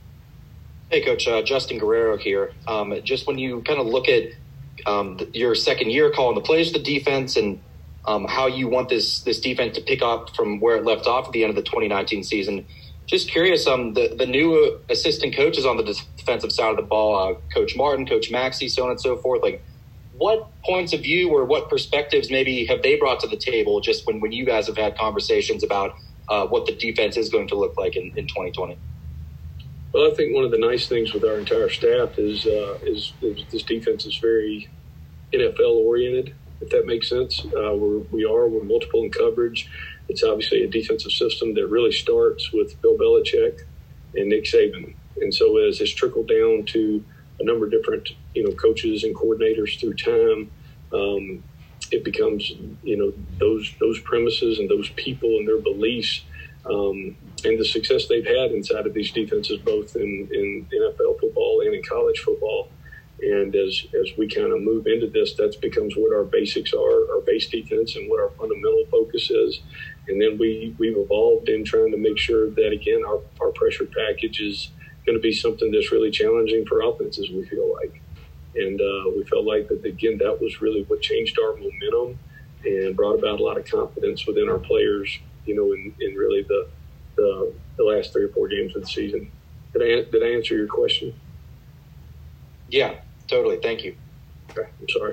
Hey, Coach, uh, Justin Guerrero here. Um, just when you kind of look at um, the, your second year calling the plays for the defense and um, how you want this this defense to pick up from where it left off at the end of the twenty nineteen season, just curious, um, the, the new assistant coaches on the defensive side of the ball, uh, Coach Martin, Coach Maxey, so on and so forth, like, what points of view or what perspectives maybe have they brought to the table just when, when you guys have had conversations about uh, what the defense is going to look like in, in twenty twenty? Well, I think one of the nice things with our entire staff is, uh, is, is this defense is very N F L-oriented, if that makes sense. Uh, we're, we are. We're multiple in coverage. It's obviously a defensive system that really starts with Bill Belichick and Nick Saban. And so as it's trickled down to a number of different, you know, coaches and coordinators through time, um, it becomes, you know, those those premises and those people and their beliefs um, and the success they've had inside of these defenses, both in, in N F L football and in college football. And as as we kind of move into this, that becomes what our basics are, our base defense, and what our fundamental focus is. And then we, we've evolved in trying to make sure that, again, our, our pressure package is going to be something that's really challenging for offenses, we feel like. And uh, we felt like that, again, that was really what changed our momentum and brought about a lot of confidence within our players, you know, in, in really the, the the last three or four games of the season. Did I, did I answer your question? Yeah, totally. Thank you. Okay, I'm sorry.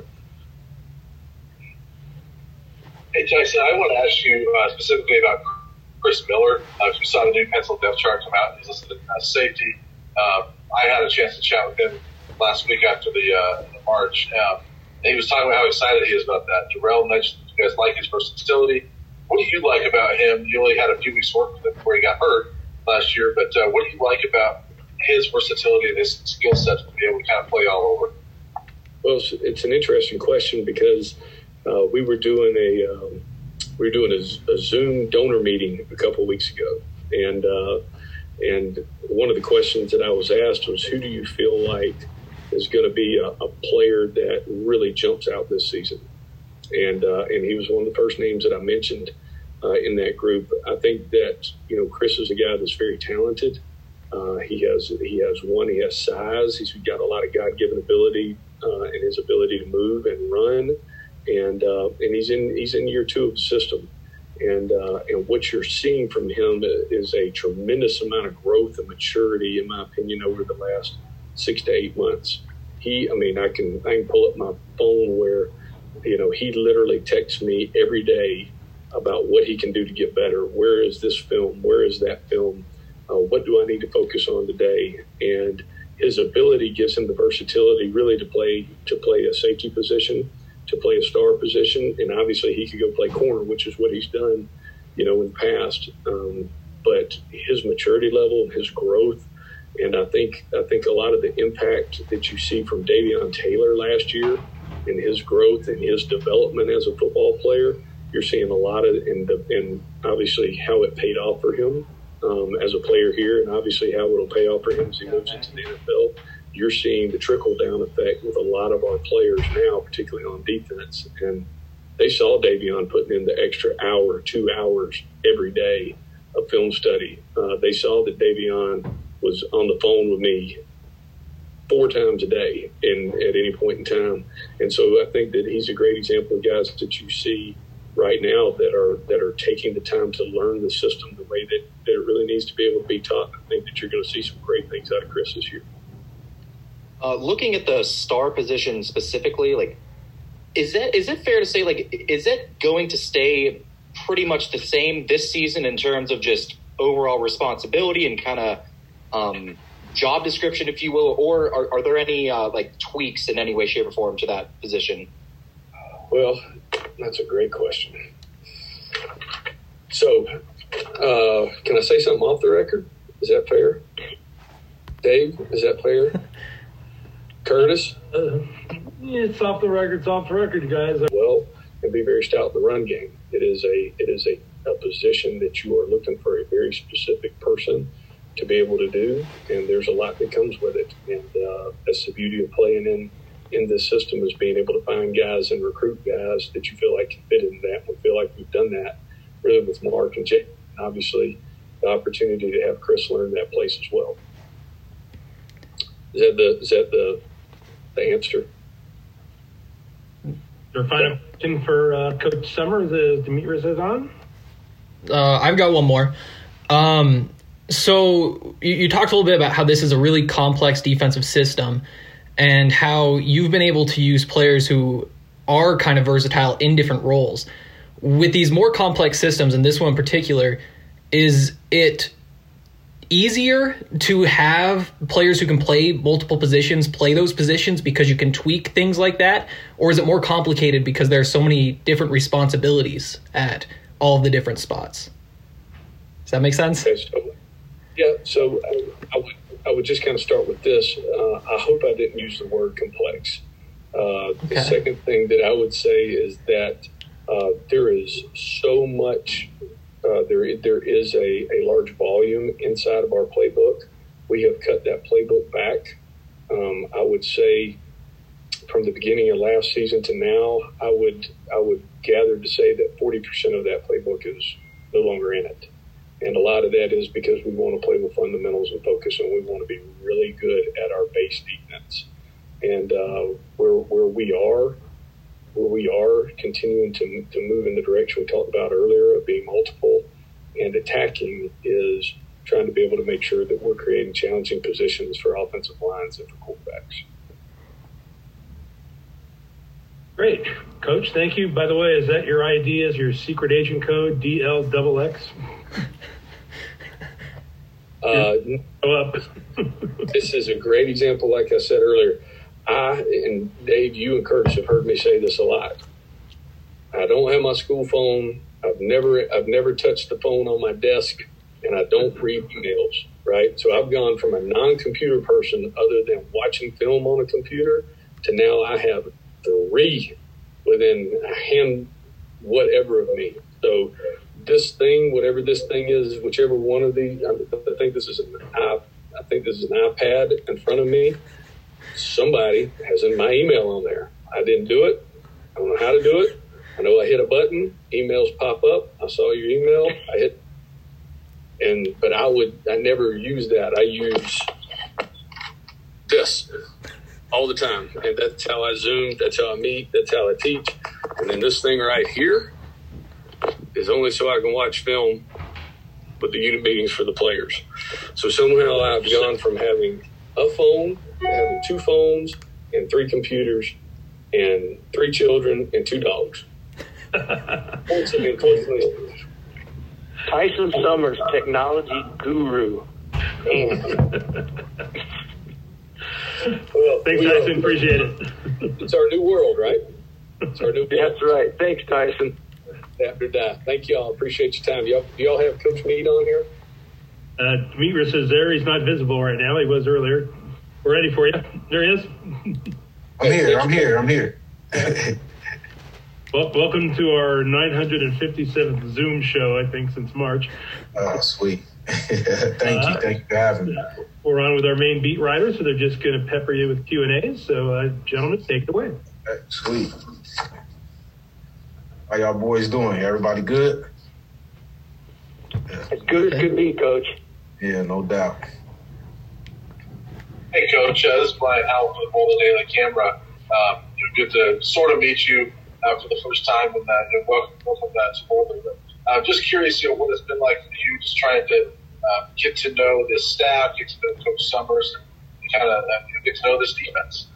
Hey, Tyson, I want to ask you uh, specifically about Chris Miller. Uh, if you saw the new pencil depth chart come out, he's listed as safety. Uh, I had a chance to chat with him last week after the, uh, the March. Um, and he was talking about how excited he is about that. Darrell mentioned you guys like his versatility. What do you like about him? You only had a few weeks work with him before he got hurt last year, but uh, what do you like about his versatility and his skill set to be able to kind of play all over? Well, it's, it's an interesting question because uh, we were doing a um, we were doing a, a Zoom donor meeting a couple of weeks ago, and uh, and one of the questions that I was asked was, who do you feel like is going to be a, a player that really jumps out this season? And uh, and he was one of the first names that I mentioned uh, in that group. I think that, you know, Chris is a guy that's very talented. Uh, he has he has one, he has size. He's got a lot of God-given ability uh, and his ability to move and run. And uh, and he's in he's in year two of the system. And uh, and what you're seeing from him is a tremendous amount of growth and maturity, in my opinion, over the last six to eight months. He, I mean, I can I can pull up my phone where, you know, he literally texts me every day about what he can do to get better. Where is this film? Where is that film? Uh, what do I need to focus on today? And his ability gives him the versatility really to play to play a safety position, to play a star position, and obviously he could go play corner, which is what he's done, you know, in the past. Um, but his maturity level and his growth, and I think I think a lot of the impact that you see from Davion Taylor last year and his growth and his development as a football player, you're seeing a lot of, and, the, and obviously how it paid off for him um, as a player here, and obviously how it'll pay off for him as he moves into the N F L. You're seeing the trickle-down effect with a lot of our players now, particularly on defense. And they saw Davion putting in the extra hour, two hours every day of film study. Uh, they saw that Davion was on the phone with me four times a day in, at any point in time. And so I think that he's a great example of guys that you see right now that are that are taking the time to learn the system the way that, that it really needs to be able to be taught. I think that you're going to see some great things out of Chris this year. Uh, looking at the star position specifically, like, is that is it fair to say, like, is it going to stay pretty much the same this season in terms of just overall responsibility and kind of um, job description, if you will, or are, are there any uh, like tweaks in any way, shape, or form to that position? Well, that's a great question. So, uh, can I say something off the record? Is that fair? Dave, is that fair? Curtis? Uh, it's off the record. It's off the record, guys. Well, and be very stout in the run game. It is a it is a, a position that you are looking for a very specific person to be able to do, and there's a lot that comes with it. And uh, that's the beauty of playing in in this system, is being able to find guys and recruit guys that you feel like can fit in that. We feel like we've done that really with Mark and Jake. Obviously, the opportunity to have Chris learn that place as well. Is that the is that the the answer? Your final question for uh, Coach Summers is Demetrius is on. Uh, I've got one more. Um, so you, you talked a little bit about how this is a really complex defensive system and how you've been able to use players who are kind of versatile in different roles. With these more complex systems, and this one in particular, is it easier to have players who can play multiple positions play those positions because you can tweak things like that? Or is it more complicated because there are so many different responsibilities at all of the different spots? Does that make sense? Okay, so, yeah, so I, I, would, I would just kind of start with this. Uh, I hope I didn't use the word complex. Uh, okay. The second thing that I would say is that uh, there is so much Uh, there, there is a, a large volume inside of our playbook. We have cut that playbook back. Um, I would say from the beginning of last season to now, I would I would gather to say that forty percent of that playbook is no longer in it. And a lot of that is because we want to play with fundamentals and focus, and we want to be really good at our base defense. And uh, where where we are, where we are continuing to to move in the direction we talked about earlier of being multiple and attacking, is trying to be able to make sure that we're creating challenging positions for offensive lines and for quarterbacks. Great. Coach, thank you. By the way, is that your I D as your secret agent code, D L X X? uh, up. This is a great example, like I said earlier. I, and Dave, you and Curtis have heard me say this a lot. I don't have my school phone. I've never I've never touched the phone on my desk, and I don't read emails, right? So I've gone from a non-computer person other than watching film on a computer to now I have three within a hand whatever of me. So this thing, whatever this thing is, whichever one of the, I think this is an I, I think this is an iPad in front of me. Somebody has in my email on there. I didn't do it. I don't know how to do it. I know I hit a button, emails pop up. I saw your email. I hit, and but I would I never use that. I use this all the time, and that's how I Zoom. That's how I meet. That's how I teach. And then this thing right here is only so I can watch film with the unit meetings for the players. So somehow I've gone from having a phone, having two phones, and three computers, and three children, and two dogs. Tyson Summers, technology guru. Well, thanks, Tyson. Appreciate it. It's our new world, right? It's our new world. That's right. Thanks, Tyson. After that. Thank y'all. Appreciate your time. Y'all, do y'all have Coach Mead on here? Uh, Demetrius is there. He's not visible right now. He was earlier. We're ready for you. There he is. I'm here. I'm here. I'm here. Well, welcome to our nine hundred fifty-seventh Zoom show, I think, since March. Oh, sweet. Thank uh, you. Thank you for having me. We're on with our main beat writers, so they're just going to pepper you with Q and A's. So, uh, gentlemen, take it away. Okay, sweet. How y'all boys doing? Everybody good? As good as could be, Coach. Yeah, no doubt. Hey, Coach. Uh, this is Brian Howell from the Boulder Daily Camera. Um, good to sort of meet you uh, for the first time, and, uh, and welcome, welcome uh, to Boulder. But I'm uh, just curious, you know, what it's been like for you, just trying to uh, get to know this staff, get to know Coach Summers, and kind of uh, get to know this defense.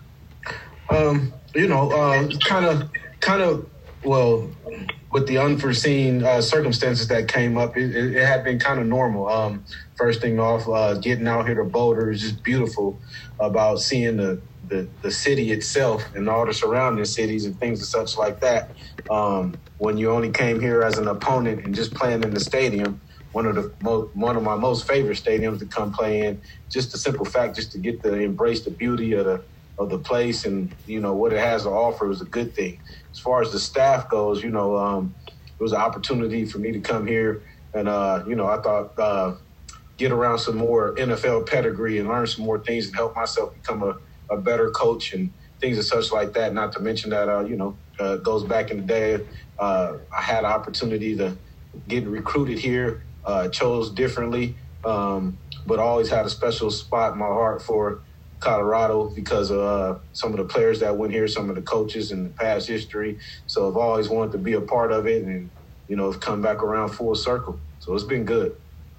Um, you know, uh, kind of, kind of. Well, with the unforeseen uh, circumstances that came up, it, it, it had been kind of normal. Um, first thing off, uh, getting out here to Boulder is just beautiful. About seeing the, the, the city itself and all the surrounding cities and things and such like that. Um, when you only came here as an opponent and just playing in the stadium, one of the mo- one of my most favorite stadiums to come play in. Just the simple fact, just to get to embrace the beauty of the of the place and you know what it has to offer was a good thing. As far as the staff goes, you know, um, it was an opportunity for me to come here and, uh, you know, I thought uh, get around some more N F L pedigree and learn some more things and help myself become a, a better coach and things and such like that. Not to mention that, uh, you know, uh, goes back in the day. Uh, I had an opportunity to get recruited here, uh, chose differently, um, but always had a special spot in my heart for Colorado because of uh, some of the players that went here, some of the coaches in the past history. So I've always wanted to be a part of it and, you know, come back around full circle. So it's been good.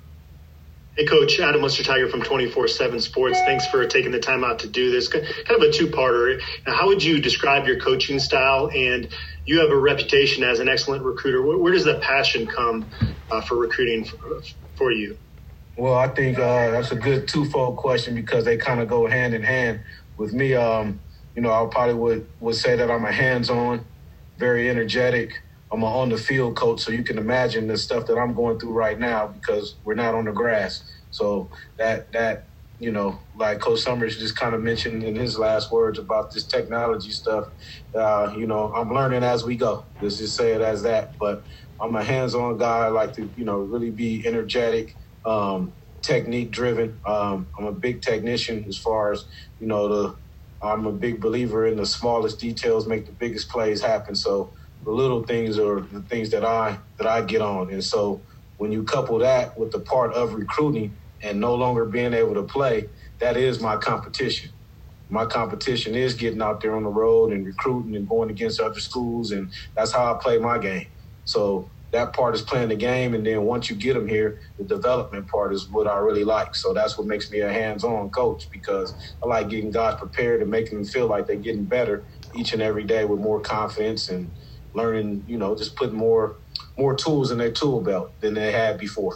Hey, Coach, Adam Munster-Tiger from twenty-four seven Sports. Thanks for taking the time out to do this. Kind of a two-parter. Now, how would you describe your coaching style? And you have a reputation as an excellent recruiter. Where, where does that passion come uh, for recruiting for, for you? Well, I think uh, that's a good twofold question because they kind of go hand in hand. With me, um, you know, I probably would, would say that I'm a hands-on, very energetic. I'm an on-the-field coach, so you can imagine the stuff that I'm going through right now because we're not on the grass. So that, that you know, like Coach Summers just kind of mentioned in his last words about this technology stuff, uh, you know, I'm learning as we go. Let's just say it as that. But I'm a hands-on guy. I like to, you know, really be energetic. Um, technique driven. Um, I'm a big technician as far as, you know, the, I'm a big believer in the smallest details make the biggest plays happen. So the little things are the things that I, that I get on. And so when you couple that with the part of recruiting and no longer being able to play, that is my competition. My competition is getting out there on the road and recruiting and going against other schools. And that's how I play my game. So that part is playing the game, and then once you get them here, the development part is what I really like. So that's what makes me a hands-on coach because I like getting guys prepared and making them feel like they're getting better each and every day with more confidence and learning, you know, just putting more more tools in their tool belt than they had before.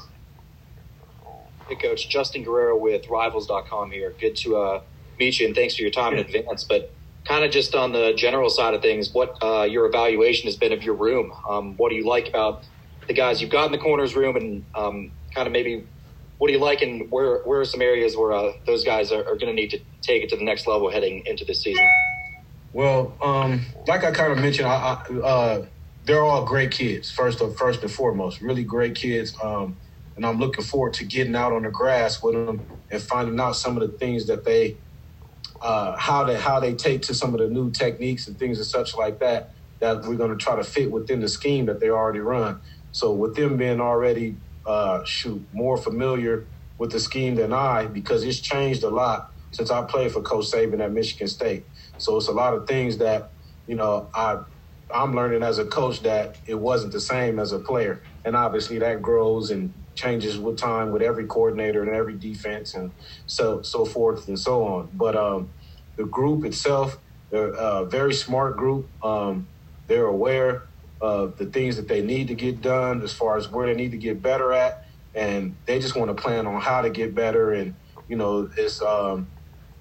Hey, Coach. Justin Guerrero with Rivals dot com here. Good to uh, meet you, and thanks for your time in advance. But kind of just on the general side of things, what uh, your evaluation has been of your room. Um, what do you like about the guys you've got in the corners room, and um, kind of maybe what do you like, and where where are some areas where uh, those guys are, are going to need to take it to the next level heading into this season? Well, um, like I kind of mentioned, I, I, uh, they're all great kids, first of, first and foremost, really great kids. Um, and I'm looking forward to getting out on the grass with them and finding out some of the things that they Uh, how they how they take to some of the new techniques and things and such like that that we're going to try to fit within the scheme that they already run. So with them being already uh, shoot more familiar with the scheme than I, because it's changed a lot since I played for Coach Saban at Michigan State. So it's a lot of things that you know I I'm learning as a coach that it wasn't the same as a player, and obviously that grows and changes with time with every coordinator and every defense and so so forth and so on. But um, the group itself, they're a very smart group. Um, they're aware of the things that they need to get done as far as where they need to get better at, and they just want to plan on how to get better. And, you know, it's um,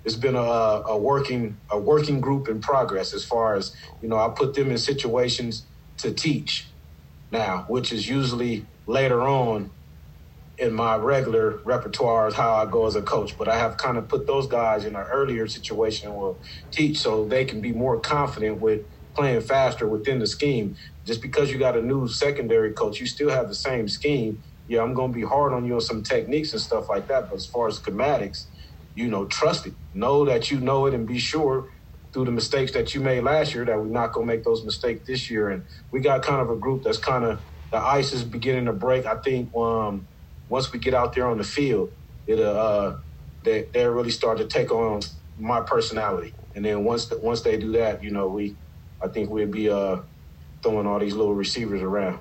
it's been a, a working a working group in progress as far as, you know, I put them in situations to teach now, which is usually later on in my regular repertoire is how I go as a coach. But I have kind of put those guys in an earlier situation and will teach so they can be more confident with playing faster within the scheme. Just because you got a new secondary coach, you still have the same scheme. Yeah, I'm going to be hard on you on some techniques and stuff like that. But as far as schematics, you know, trust it. Know that you know it and be sure through the mistakes that you made last year that we're not going to make those mistakes this year. And we got kind of a group that's kind of – the ice is beginning to break. I think um, once we get out there on the field, it'll, uh, they, they'll really start to take on my personality. And then once the, once they do that, you know, we I think we'll be uh, throwing all these little receivers around.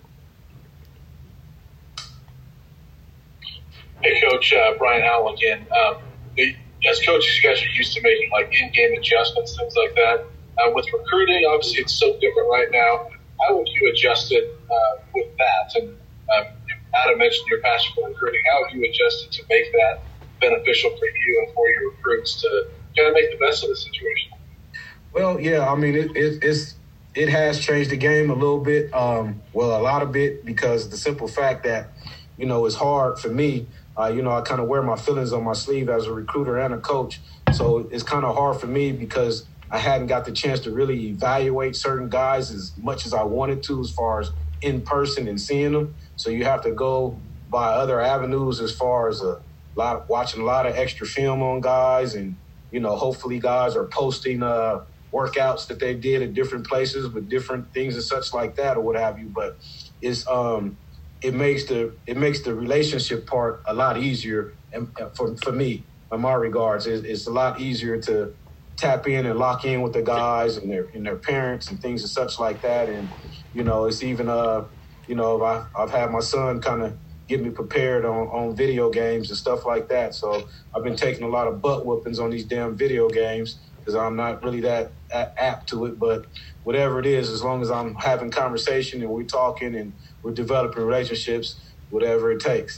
Hey, Coach, uh, Brian Howell again. Um, the, as coaches, you guys are used to making like in-game adjustments, things like that. Uh, with recruiting, obviously, it's so different right now. How would you adjust it uh, with that? And um, Adam mentioned your passion for recruiting. How have you adjusted to make that beneficial for you and for your recruits to kind of make the best of the situation? Well, yeah, I mean, it, it, it's it has changed the game a little bit. Um, well, a lot of bit because the simple fact that, you know, it's hard for me. Uh, you know, I kind of wear my feelings on my sleeve as a recruiter and a coach. So it's kind of hard for me because I hadn't got the chance to really evaluate certain guys as much as I wanted to as far as in person and seeing them. So you have to go by other avenues as far as a lot, watching a lot of extra film on guys. And, you know, hopefully guys are posting uh, workouts that they did at different places with different things and such like that or what have you. But it's um, – it makes the it makes the relationship part a lot easier, and for for me, in my regards, it's, it's a lot easier to tap in and lock in with the guys and their and their parents and things and such like that. And you know, it's even uh, you know, I, I've had my son kind of get me prepared on, on video games and stuff like that. So I've been taking a lot of butt whoopings on these damn video games because I'm not really that, that apt to it. But whatever it is, as long as I'm having conversation and we're talking and we're developing relationships, whatever it takes.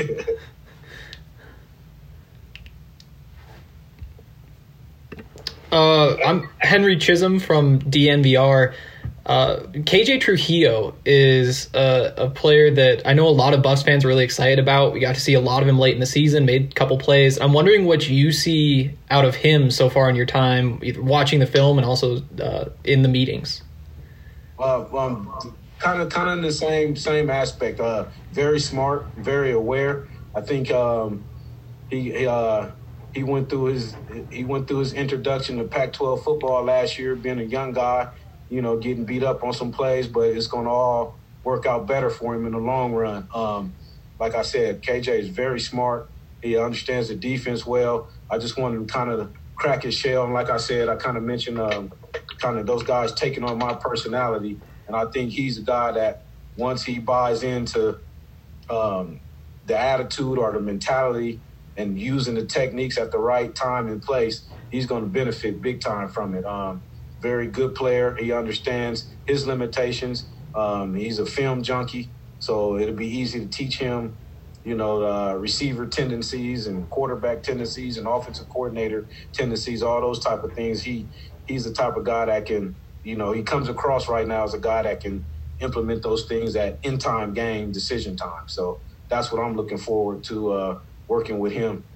uh, I'm Henry Chisholm from D N V R. Uh, K J Trujillo is a, a player that I know a lot of Buffs fans are really excited about. We got to see a lot of him late in the season, made a couple plays. I'm wondering what you see out of him so far in your time, either watching the film and also uh, in the meetings. Uh, um, kind of, kind of in the same same aspect. Uh, very smart, very aware. I think um, he uh, he went through his he went through his introduction to Pac twelve football last year, being a young guy. You know, getting beat up on some plays, but it's going to all work out better for him in the long run. Um, like I said, K J is very smart. He understands the defense well. I just wanted to kind of crack his shell. And like I said, I kind of mentioned um, kind of those guys taking on my personality. And I think he's a guy that once he buys into um, the attitude or the mentality and using the techniques at the right time and place, he's going to benefit big time from it. Um, very good player. He understands his limitations. Um, he's a film junkie, so it'll be easy to teach him, you know, uh, receiver tendencies and quarterback tendencies and offensive coordinator tendencies, all those type of things. He he's the type of guy that can, you know, he comes across right now as a guy that can implement those things at in-time game decision time. So that's what I'm looking forward to uh, working with him.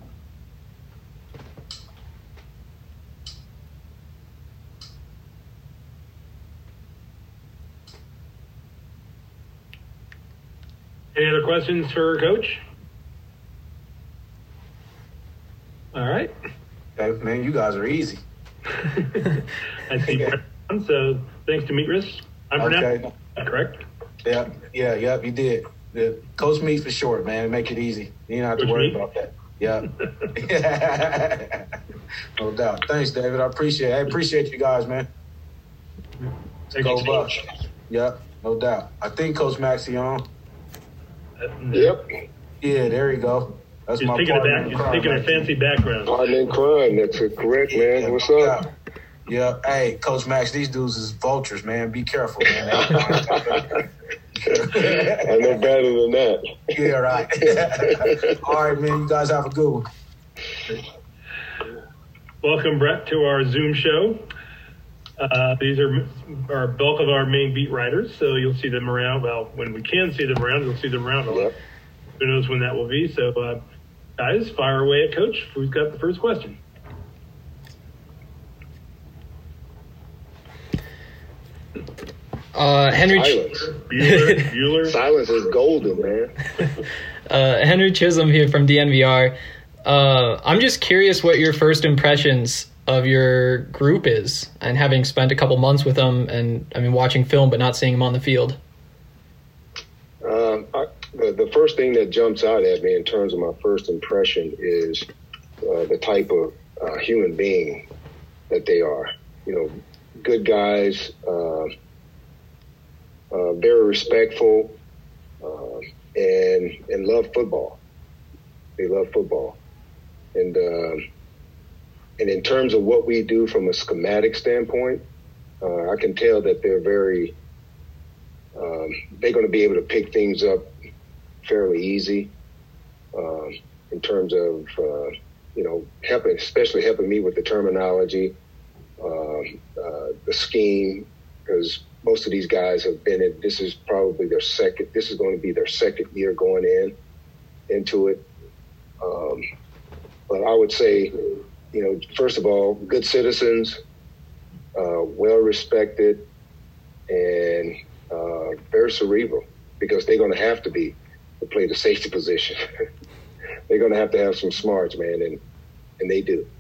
Any other questions for Coach? All right. Okay, man, you guys are easy. I see. So thanks, Demetrius. I'm okay. That correct? Yeah, yeah, yep, you did. Yeah. Coach Meat for short, man. Make it easy. You don't have to Coach worry Meat? about that. Yeah. No doubt. Thanks, David. I appreciate it. I appreciate you guys, man. Thank Go you. Bucks. Yep, no doubt. I think Coach Maxey on. Yep. Yeah, there you go. That's He's my taking a partner back. in He's crime, taking a man. fancy background. Partner in crime. That's correct, man. Yeah, What's no up? doubt. Yeah. Hey, Coach Max, these dudes is vultures, man. Be careful, man. I know better than that. Yeah, right. All right, man. You guys have a good one. welcome, Brett, to our Zoom show. Uh, these are our bulk of our main beat writers, so you'll see them around. Well, when we can see them around, you'll see them around a lot. Who knows when that will be? So, uh, guys, fire away at Coach. Who's got the first question? Uh, Henry Silence. Bueller, Bueller. Silence is golden, man. uh, Henry Chisholm here from D N V R. Uh, I'm just curious what your first impressions of your group is, and having spent a couple months with them, and I mean watching film but not seeing them on the field. Um, I, the, the first thing that jumps out at me in terms of my first impression is uh, the type of uh, human being that they are. You know, good guys, uh, uh, very respectful, uh, and and love football. They love football, and uh, and in terms of what we do from a schematic standpoint, uh, I can tell that they're very. Um, they're going to be able to pick things up fairly easy um, in terms of, uh, you know, helping, especially helping me with the terminology, um, uh, the scheme, because most of these guys have been in, this is probably their second, this is going to be their second year going in, into it. Um, but I would say, you know, first of all, good citizens, uh, well-respected, and Uh, very cerebral, because they're going to have to be to play the safety position. They're going to have to have some smarts, man, and and they do.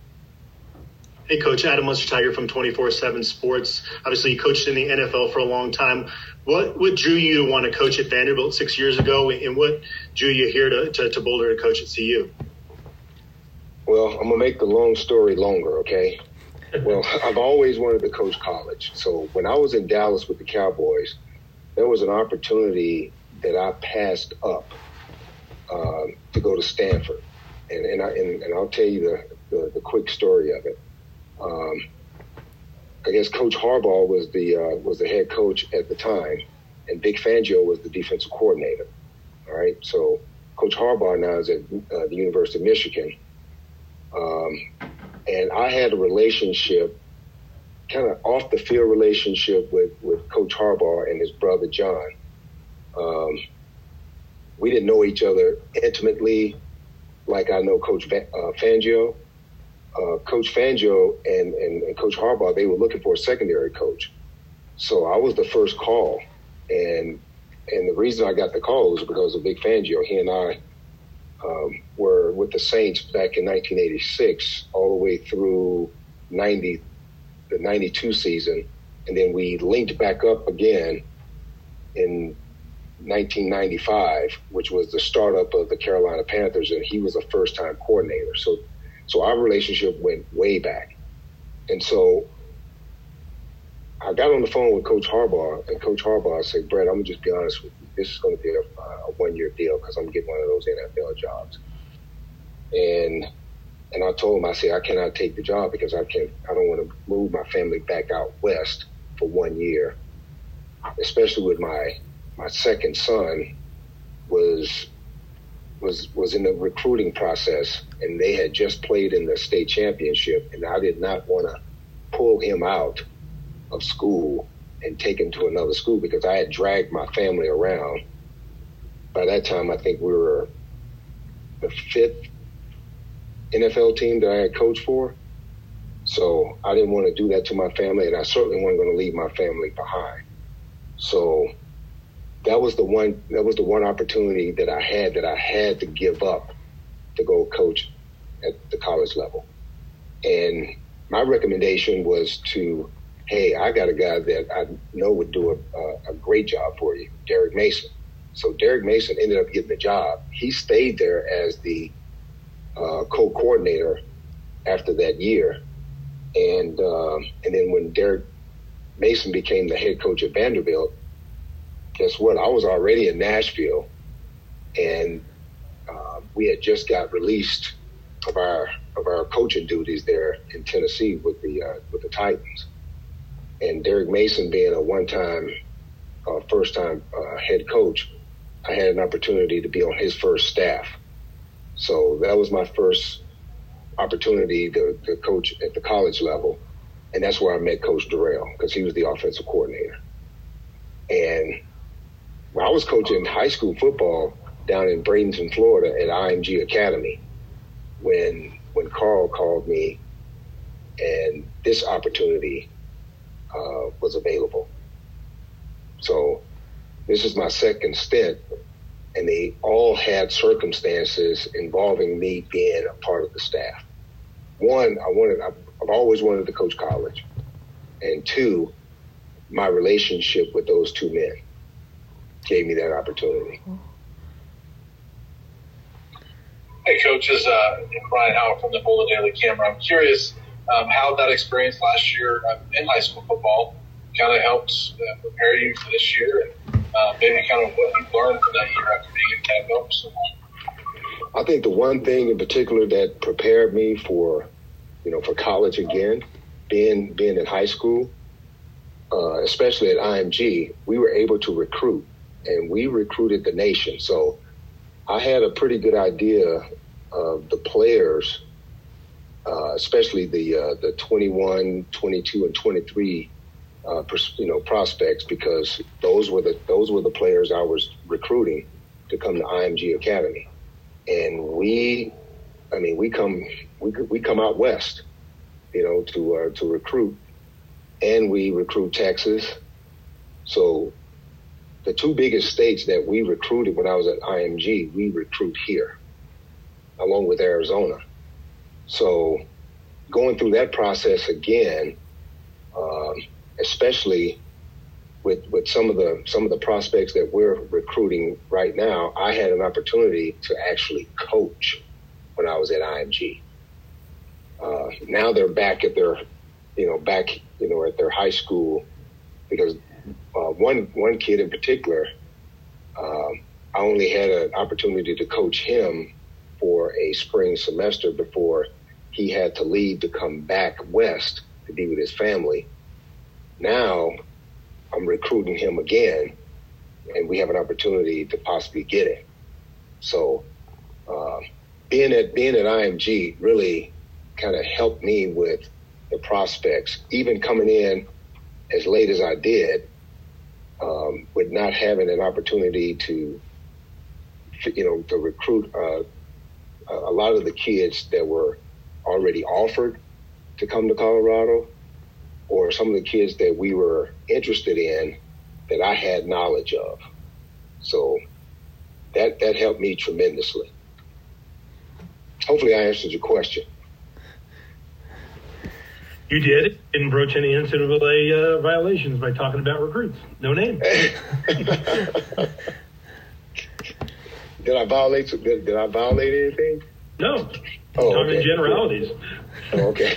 Hey, Coach, Adam Munster-Tiger from twenty-four seven Sports. Obviously, you coached in the N F L for a long time. What what drew you to want to coach at Vanderbilt six years ago, and what drew you here to, to, to Boulder to coach at C U? Well, I'm going to make the long story longer, okay? Well, I've always wanted to coach college. So when I was in Dallas with the Cowboys, there was an opportunity that I passed up uh, to go to Stanford. And and, I, and and I'll tell you the, the, the quick story of it. Um, I guess Coach Harbaugh was the uh, was the head coach at the time, and Vic Fangio was the defensive coordinator. All right, so Coach Harbaugh now is at uh, the University of Michigan. Um, And I had a relationship, kind of off the field relationship with, with Coach Harbaugh and his brother John. Um, we didn't know each other intimately like I know Coach Va- uh, Fangio. Uh, Coach Fangio and, and, and Coach Harbaugh, they were looking for a secondary coach. So I was the first call. And and the reason I got the call was because of Vic Fangio. He and I Um, were with the Saints back in nineteen eighty-six all the way through ninety, the ninety-two season. And then we linked back up again in nineteen ninety-five, which was the startup of the Carolina Panthers, and he was a first-time coordinator. So, so our relationship went way back. And so I got on the phone with Coach Harbaugh, and Coach Harbaugh said, Brett, I'm going to just be honest with you. This is going to be a, a one-year deal because I'm getting one of those N F L jobs. And and I told him, I said, I cannot take the job because I can't. I don't want to move my family back out west for one year, especially with my my second son was was was in the recruiting process, and they had just played in the state championship, and I did not want to pull him out of school and take him to another school because I had dragged my family around. By that time, I think we were the fifth N F L team that I had coached for. So I didn't want to do that to my family, and I certainly wasn't going to leave my family behind. So that was the one, that was the one opportunity that I had that I had to give up to go coach at the college level. And my recommendation was to, hey, I got a guy that I know would do a, a, a great job for you, Derek Mason. So Derek Mason ended up getting the job. He stayed there as the uh, co-coordinator after that year. And um, and then when Derek Mason became the head coach at Vanderbilt, guess what? I was already in Nashville, and uh, we had just got released of our of our coaching duties there in Tennessee with the uh, with the Titans. And Derek Mason being a one-time, uh, first-time uh, head coach, I had an opportunity to be on his first staff. So that was my first opportunity to, to coach at the college level. And that's where I met Coach Durrell, because he was the offensive coordinator. And when I was coaching high school football down in Bradenton, Florida at I M G Academy, when when Carl called me and this opportunity uh, was available. So this is my second stint, and they all had circumstances involving me being a part of the staff. One, I wanted, I've always wanted to coach college. And two, my relationship with those two men gave me that opportunity. Hey, Coach, this is uh, Brian Howell from the Boulder Daily Camera. I'm curious um, how that experience last year uh, in high school football kind of helped uh, prepare you for this year, and uh, maybe kind of what you learned from that year after being in Camp Bell for so long. I think the one thing in particular that prepared me for, you know, for college again, being being in high school, uh, especially at I M G, we were able to recruit, and we recruited the nation. So I had a pretty good idea of the players, uh, especially the uh, the twenty-one, twenty-two, and twenty-three, uh, pers- you know, prospects, because those were the those were the players I was recruiting to come to I M G Academy, and we, I mean, we come we we come out west, you know, to uh, to recruit, and we recruit Texas, so. The two biggest states that we recruited when I was at I M G, we recruit here, along with Arizona. So going through that process again, um, especially with with some of the some of the prospects that we're recruiting right now, I had an opportunity to actually coach when I was at I M G. Uh, now they're back at their, you know, back, you know, at their high school, because Uh, one one kid in particular, um, I only had an opportunity to coach him for a spring semester before he had to leave to come back west to be with his family. Now I'm recruiting him again, and we have an opportunity to possibly get him. So uh, being at being at I M G really kind of helped me with the prospects, even coming in as late as I did. Um, with not having an opportunity to, you know, to recruit uh, a lot of the kids that were already offered to come to Colorado, or some of the kids that we were interested in that I had knowledge of. So that that helped me tremendously. Hopefully I answered your question. You did. Didn't broach any N C double A uh, violations by talking about recruits. No name. Did I violate? Did, did I violate anything? No. Oh, talking okay. generalities. Oh, okay.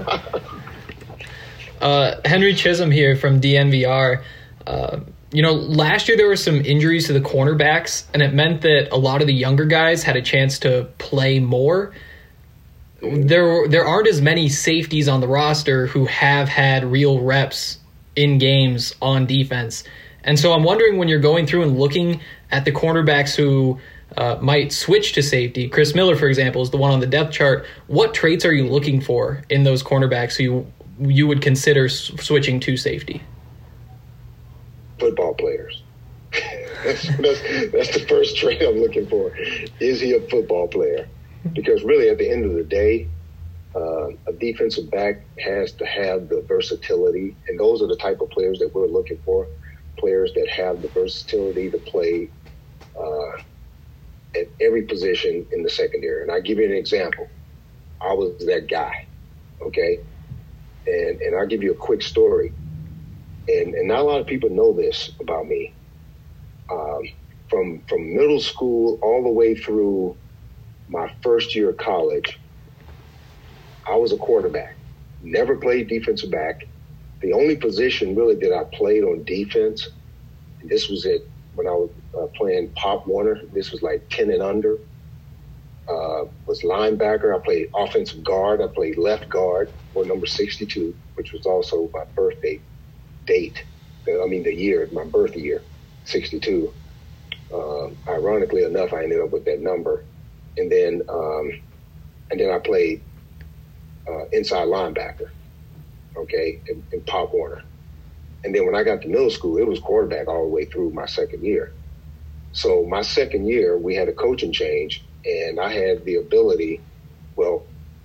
uh, Henry Chisholm here from D N V R. Uh, you know, last year there were some injuries to the cornerbacks, and it meant that a lot of the younger guys had a chance to play more. There, there aren't as many safeties on the roster who have had real reps in games on defense. And so I'm wondering, when you're going through and looking at the cornerbacks who uh, might switch to safety, Chris Miller, for example, is the one on the depth chart. What traits are you looking for in those cornerbacks who you, you would consider s- switching to safety? Football players. that's, that's, that's the first trait I'm looking for. Is he a football player? Because really, at the end of the day, uh, a defensive back has to have the versatility, and those are the type of players that we're looking for, players that have the versatility to play uh, at every position in the secondary. And I'll give you an example. I was that guy, okay? And and I'll give you a quick story. And, and not a lot of people know this about me. Um, from from middle school all the way through my first year of college, I was a quarterback. Never played defensive back. The only position really that I played on defense, and this was it when I was uh, playing Pop Warner, this was like ten and under, uh, was linebacker. I played offensive guard. I played left guard, or number sixty-two, which was also my birthday date. I mean, the year, my birth year, sixty-two. Uh, ironically enough, I ended up with that number. And then, um, and then I played uh, inside linebacker, okay, in, in Pop Warner. And then when I got to middle school, it was quarterback all the way through my second year. So my second year, we had a coaching change, and I had the ability, well,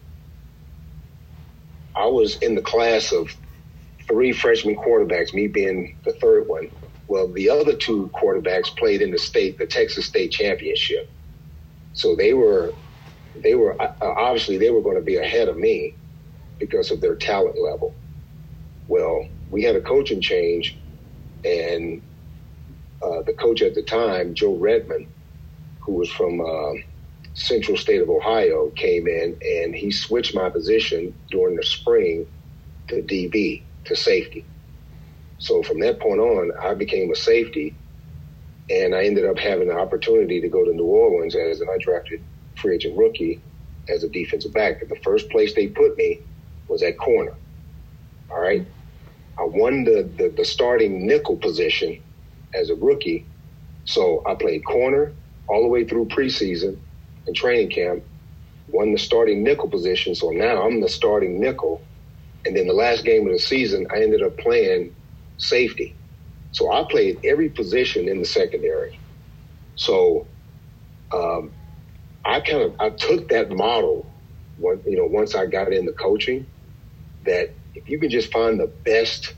I was in the class of three freshman quarterbacks, me being the third one. Well, the other two quarterbacks played in the state, the Texas State Championship. So they were, they were uh, obviously they were going to be ahead of me because of their talent level. Well, we had a coaching change, and uh, the coach at the time, Joe Redmond, who was from uh, Central State of Ohio, came in, and he switched my position during the spring to D B, to safety. So from that point on, I became a safety, and I ended up having the opportunity to go to New Orleans as an undrafted free agent rookie as a defensive back. The first place they put me was at corner. All right. I won the, the, the starting nickel position as a rookie. So I played corner all the way through preseason and training camp, won the starting nickel position. So now I'm the starting nickel. And then the last game of the season, I ended up playing safety. So I played every position in the secondary. So um, I kind of, I took that model, when, you know, once I got into coaching, that if you can just find the best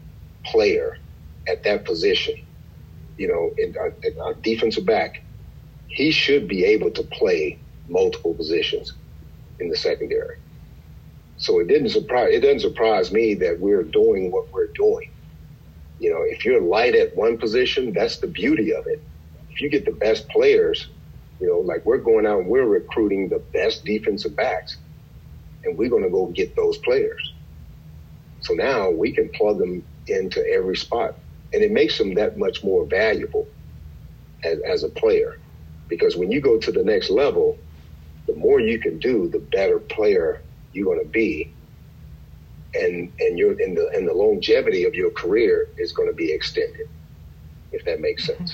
player at that position, you know, in a, a defensive back, he should be able to play multiple positions in the secondary. So it didn't surprise, it doesn't surprise me that we're doing what we're doing. You know, if you're light at one position, that's the beauty of it. If you get the best players, you know, like we're going out and we're recruiting the best defensive backs, and we're going to go get those players. So now we can plug them into every spot, and it makes them that much more valuable as, as a player. Because when you go to the next level, the more you can do, the better player you're going to be, and and you're in the and the longevity of your career is going to be extended, if that makes sense.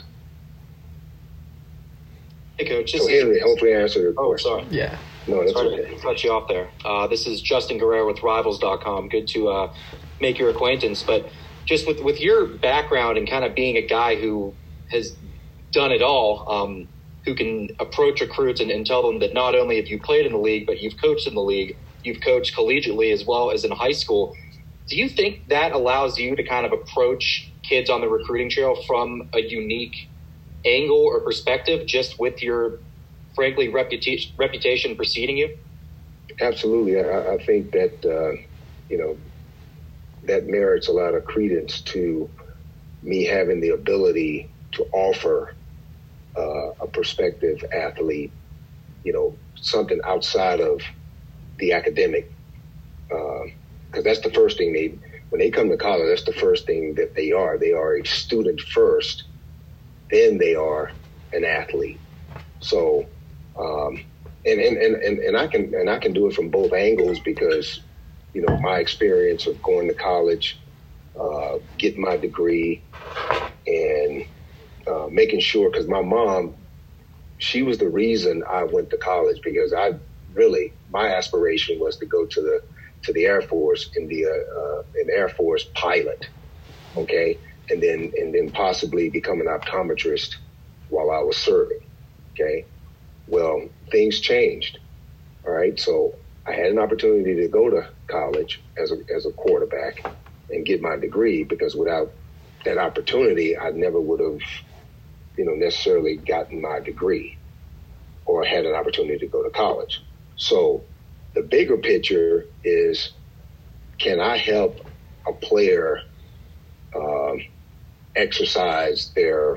Hey, Coach. So Henry, hopefully I answered your oh, question. sorry. Yeah. No, that's sorry okay. to cut you off there. Uh, this is Justin Guerrero with Rivals dot com. Good to uh, make your acquaintance. But just with, with your background and kind of being a guy who has done it all, um, who can approach recruits and, and tell them that not only have you played in the league, but you've coached in the league, you've coached collegiately as well as in high school. Do you think that allows you to kind of approach kids on the recruiting trail from a unique angle or perspective, just with your, frankly, reputation, reputation preceding you? Absolutely. I, I think that, uh, you know, that merits a lot of credence to me having the ability to offer uh, a prospective athlete, you know, something outside of the academic. Because uh, that's the first thing they, when they come to college, that's the first thing that they are. They are a student first, then they are an athlete. So, um, and, and, and, and, and I can, and I can do it from both angles because, you know, my experience of going to college, uh, getting my degree, and uh, making sure, because my mom, she was the reason I went to college, because I really, my aspiration was to go to the to the Air Force and be a, uh, an Air Force pilot, okay, and then and then possibly become an optometrist while I was serving, okay. Well, things changed, all right. So I had an opportunity to go to college as a as a quarterback and get my degree, because without that opportunity, I never would have, you know, necessarily gotten my degree or had an opportunity to go to college. So the bigger picture is, can I help a player um, exercise their,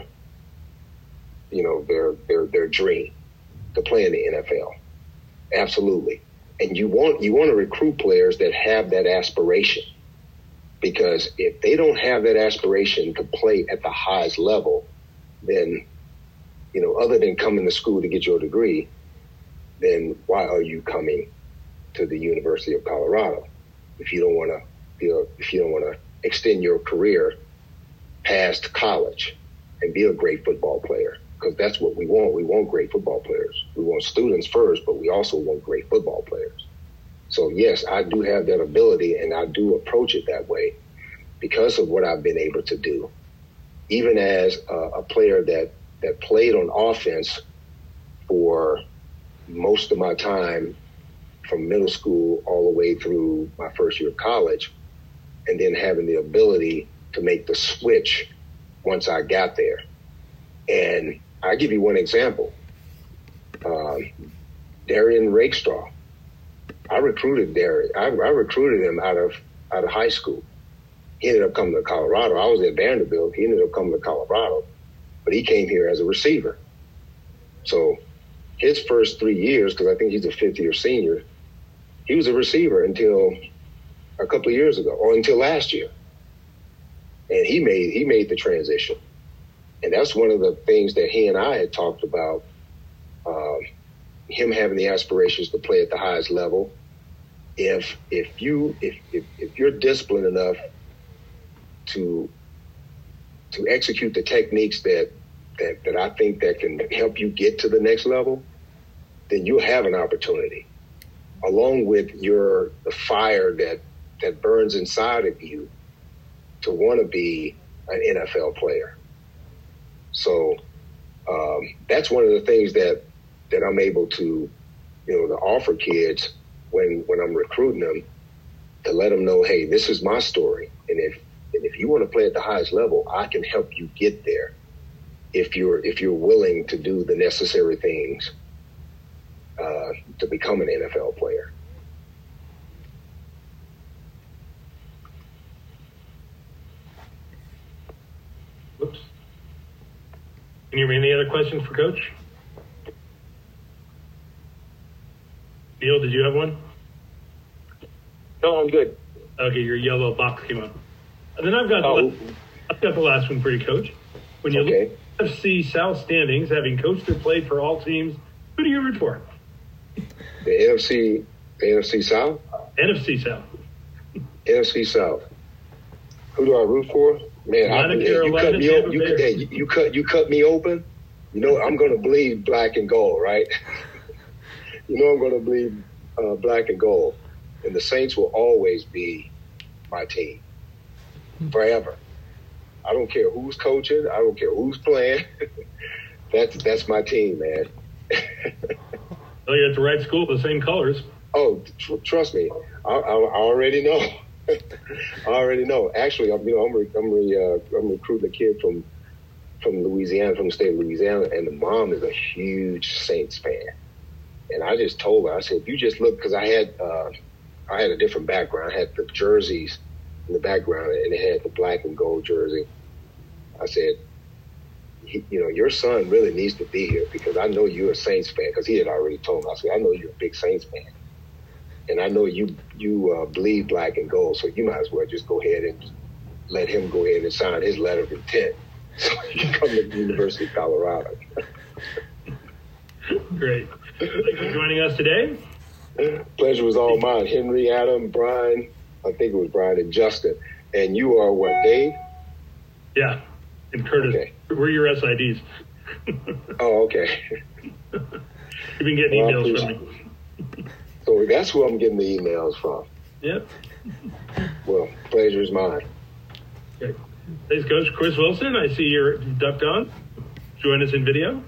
you know, their, their, their dream to play in the N F L? Absolutely. And you want, you want to recruit players that have that aspiration, because if they don't have that aspiration to play at the highest level, then, you know, other than coming to school to get your degree, then why are you coming to the University of Colorado if you don't want to be a, if you don't want to extend your career past college and be a great football player? Because that's what we want. We want great football players. We want students first, but we also want great football players. So, yes, I do have that ability, and I do approach it that way because of what I've been able to do. Even as a, a player that, that played on offense for most of my time from middle school all the way through my first year of college, and then having the ability to make the switch once I got there. And I'll give you one example. Um, Darian Rakestraw. I recruited Darian. I, I recruited him out of out of high school. He ended up coming to Colorado. I was at Vanderbilt. He ended up coming to Colorado, but he came here as a receiver. So his first three years, because I think he's a fifth-year senior, he was a receiver until a couple of years ago, or until last year. And he made he made the transition. And that's one of the things that he and I had talked about, um, him having the aspirations to play at the highest level. If if you if, if if you're disciplined enough to to execute the techniques that, that that I think that can help you get to the next level, then you'll have an opportunity, along with your the fire that that burns inside of you to want to be an N F L player. So um, that's one of the things that that I'm able to, you know, to offer kids when when I'm recruiting them, to let them know, hey, this is my story, and if and if you want to play at the highest level, I can help you get there if you're if you're willing to do the necessary things uh, to become an N F L player. Whoops. Can you hear me? Any other questions for Coach? Neil, did you have one? No, I'm good. Okay, your yellow box came up. And then I've got, oh. the, I've got the last one for you, Coach. When you okay. look at F C South standings, having coached or played for all teams, who do you root for? The N F C, the N F C South? N F C South. N F C South. Who do I root for? Man, I, you cut me open. You, hey, you, you cut you cut me open. You know I'm going to bleed black and gold, right? You know I'm going to bleed uh, black and gold, and the Saints will always be my team forever. I don't care who's coaching. I don't care who's playing. that's that's my team, man. Well, you're at the right school, the same colors. Oh, tr- trust me, I, I, I already know. I already know. Actually, I'm you know I'm re- I'm, re- uh, I'm recruiting a kid from from Louisiana, from the state of Louisiana, and the mom is a huge Saints fan. And I just told her, I said, if you just look, because I had uh, I had a different background. I had the jerseys in the background, and it had the black and gold jersey. I said, he, you know, your son really needs to be here because I know you're a Saints fan. Because he had already told me. I said, I know you're a big Saints fan, and I know you you uh, bleed black and gold. So you might as well just go ahead and let him go ahead and sign his letter of intent so he can come to the University of Colorado. Great. Thanks for joining us today. Pleasure was all mine. Henry, Adam, Brian, I think it was Brian, and Justin. And you are what, Dave? Yeah, and Curtis. Okay. We're your S I Ds. Oh, okay. You've been getting well, emails from me. So that's who I'm getting the emails from. Yep. Well, pleasure is mine. Okay. Thanks, Coach. Chris Wilson, I see you're ducked on. Join us in video.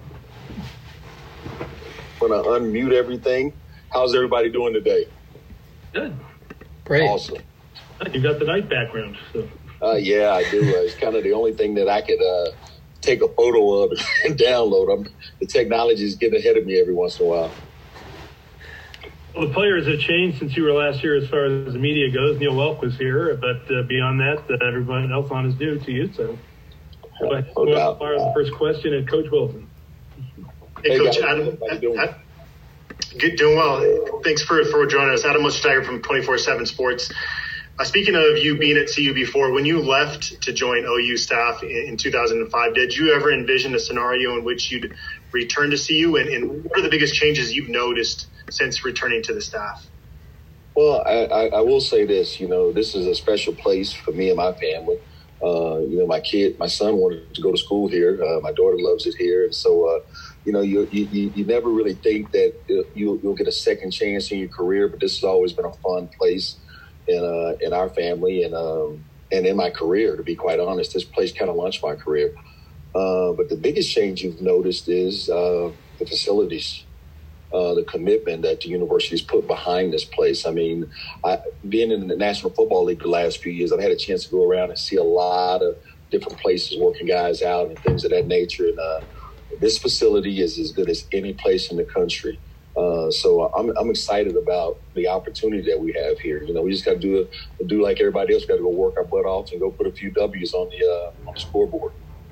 I'm going to unmute everything. How's everybody doing today? Good. Great. Awesome. You got the night background. So. Uh, yeah, I do. Uh, it's kind of the only thing that I could uh, take a photo of and download. I'm, the technology is getting ahead of me every once in a while. Well, the players have changed since you were last year as far as the media goes. Neil Welk was here, but uh, beyond that, uh, everyone else on is due to you. So, go ahead. No doubt. As far as the first question, and Coach Wilson. Hey, hey Coach guys, Adam. Doing? Good, doing well. Thanks for, for joining us. Adam Muster from twenty-four seven Sports. Uh, speaking of you being at C U before, when you left to join O U staff in, in two thousand five, did you ever envision a scenario in which you'd return to C U? And, and what are the biggest changes you've noticed since returning to the staff? Well, I, I, I will say this, you know, this is a special place for me and my family. Uh, you know, my kid, my son wanted to go to school here. Uh, my daughter loves it here. And so, uh, you know, you, you you never really think that you'll, you'll get a second chance in your career, but this has always been a fun place in uh, in our family and um, and in my career, to be quite honest. This place kind of launched my career. Uh, but the biggest change you've noticed is uh, the facilities, uh, the commitment that the university's put behind this place. I mean, I, being in the National Football League the last few years, I've had a chance to go around and see a lot of different places working guys out and things of that nature. And uh, this facility is as good as any place in the country. Uh, so I'm I'm excited about the opportunity that we have here. You know, we just got to do a, do like everybody else. Got to go work our butt off and go put a few W's on the uh, on the scoreboard.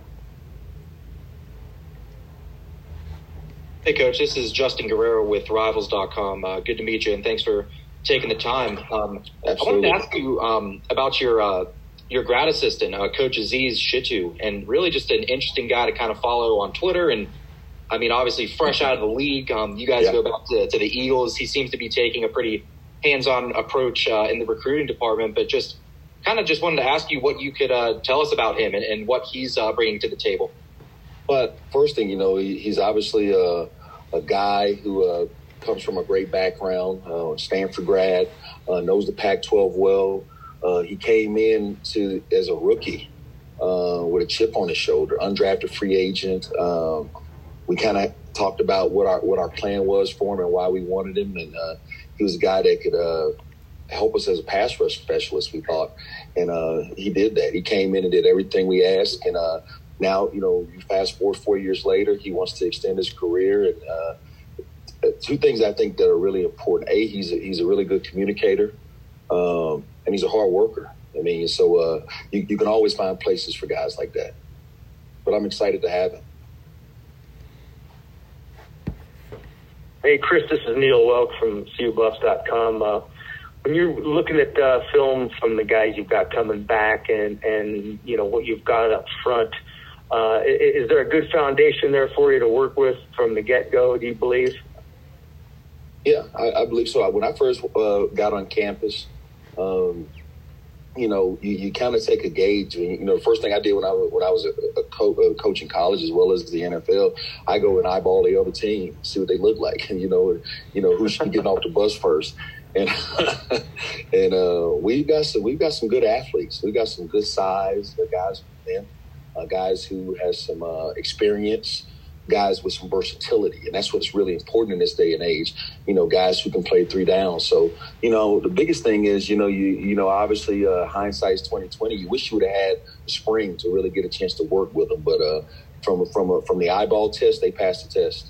Hey, Coach, this is Justin Guerrero with Rivals dot com. Uh, good to meet you, and thanks for taking the time. Um, I wanted to ask you um, about your uh, your grad assistant, uh, Coach Aziz Shitu, and really just an interesting guy to kind of follow on Twitter. And, I mean, obviously fresh out of the league. Um, you guys yeah. go back to, to the Eagles. He seems to be taking a pretty hands-on approach uh, in the recruiting department, but just kind of just wanted to ask you what you could uh, tell us about him and, and what he's uh, bringing to the table. But first thing, you know, he, he's obviously a, a guy who uh, comes from a great background, uh, Stanford grad, uh, knows the Pac twelve well. Uh, he came in to as a rookie uh, with a chip on his shoulder, undrafted free agent. Um, we kind of talked about what our what our plan was for him and why we wanted him, and uh, he was a guy that could uh, help us as a pass rush specialist, we thought, and uh, he did that. He came in and did everything we asked, and uh, now, you know, you fast forward four years later, he wants to extend his career. And uh, two things I think that are really important. A, he's a, he's a really good communicator, um, and he's a hard worker. I mean, so uh, you, you can always find places for guys like that. But I'm excited to have him. Hey, Chris, this is Neil Welk from C U Buffs dot com. Uh, when you're looking at uh, film from the guys you've got coming back and, and, you know, what you've got up front, Uh, is there a good foundation there for you to work with from the get-go, do you believe? Yeah, I, I believe so. When I first uh, got on campus, um, you know, you, you kind of take a gauge. You know, the first thing I did when I, when I was a, a, co- a coach in college as well as the N F L, I go and eyeball the other team, see what they look like, and, you know, you know who should be getting off the bus first. And and uh, we've got some we've got some good athletes. We've got some good size, the guys, man. Uh, guys who has some uh, experience, guys with some versatility. And that's what's really important in this day and age, you know, guys who can play three downs. So, you know, the biggest thing is, you know, you you know, obviously uh, hindsight's twenty twenty. You wish you would have had the spring to really get a chance to work with them. But uh, from, from, a, from the eyeball test, they passed the test.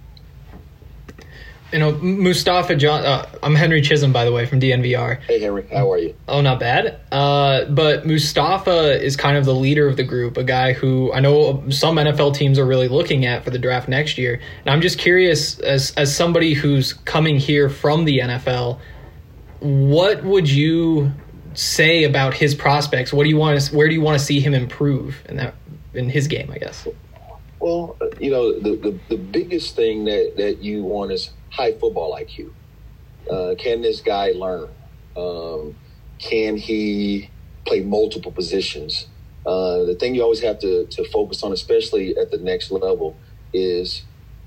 You know, Mustafa John. Uh, I'm Henry Chisholm, by the way, from D N V R. Hey, Henry, how are you? Oh, not bad. Uh, but Mustafa is kind of the leader of the group, a guy who I know some N F L teams are really looking at for the draft next year. And I'm just curious, as as somebody who's coming here from the N F L, what would you say about his prospects? What do you want to? Where do you want to see him improve in that in his game? I guess. Well, you know, the the, the biggest thing that, that you want is high football I Q. Uh, can this guy learn? Um, can he play multiple positions? Uh, the thing you always have to, to focus on, especially at the next level, is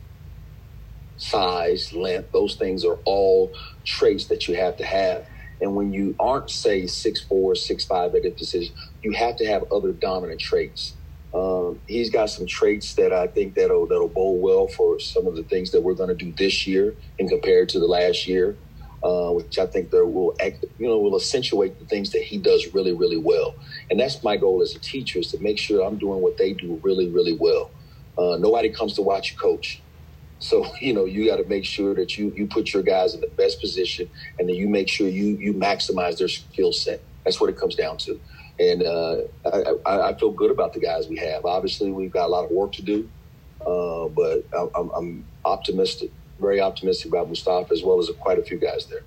size, length. Those things are all traits that you have to have. And when you aren't, say, six four, six five at a position, you have to have other dominant traits. Um, he's got some traits that I think that'll that'll bode well for some of the things that we're going to do this year and compared to the last year, uh, which I think there will act, you know will accentuate the things that he does really really well. And that's my goal as a teacher, is to make sure I'm doing what they do really really well. Uh, nobody comes to watch you coach, so you know you got to make sure that you you put your guys in the best position, and then you make sure you you maximize their skill set. That's what it comes down to. And uh, I, I feel good about the guys we have. Obviously, we've got a lot of work to do, uh, but I'm, I'm optimistic, very optimistic about Mustafa as well as quite a few guys there.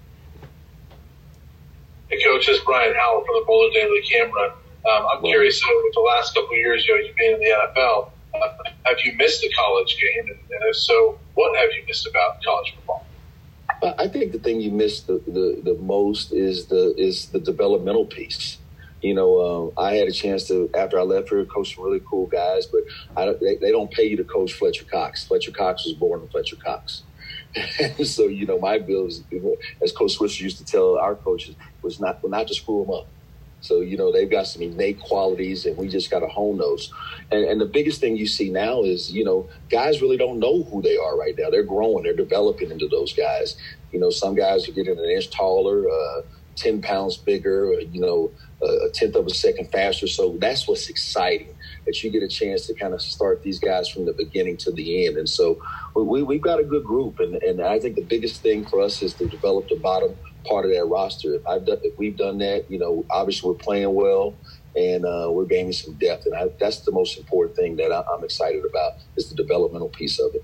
Hey, Coach, this is Brian Howell from the Boulder Daily Camera. Um, I'm well, curious, uh, with the last couple of years, you know, you've been in the N F L. Uh, have you missed the college game? And, and if so, what have you missed about college football? I think the thing you miss the, the, the most is the is the developmental piece. You know, um, I had a chance to, after I left here, coach some really cool guys, but I don't, they, they don't pay you to coach Fletcher Cox. Fletcher Cox was born in Fletcher Cox. So, you know, my bill is, as Coach Swisher used to tell our coaches, was not, well, not to screw them up. So, you know, they've got some innate qualities, and we just got to hone those. And, and the biggest thing you see now is, you know, guys really don't know who they are right now. They're growing. They're developing into those guys. You know, some guys are getting an inch taller, uh, ten pounds bigger, or, you know, a tenth of a second faster. So that's what's exciting, that you get a chance to kind of start these guys from the beginning to the end. And so we, we've got a good group. And, and I think the biggest thing for us is to develop the bottom part of that roster. If, I've done, if we've done that, you know, obviously we're playing well, and uh, we're gaining some depth. And I, that's the most important thing that I, I'm excited about, is the developmental piece of it.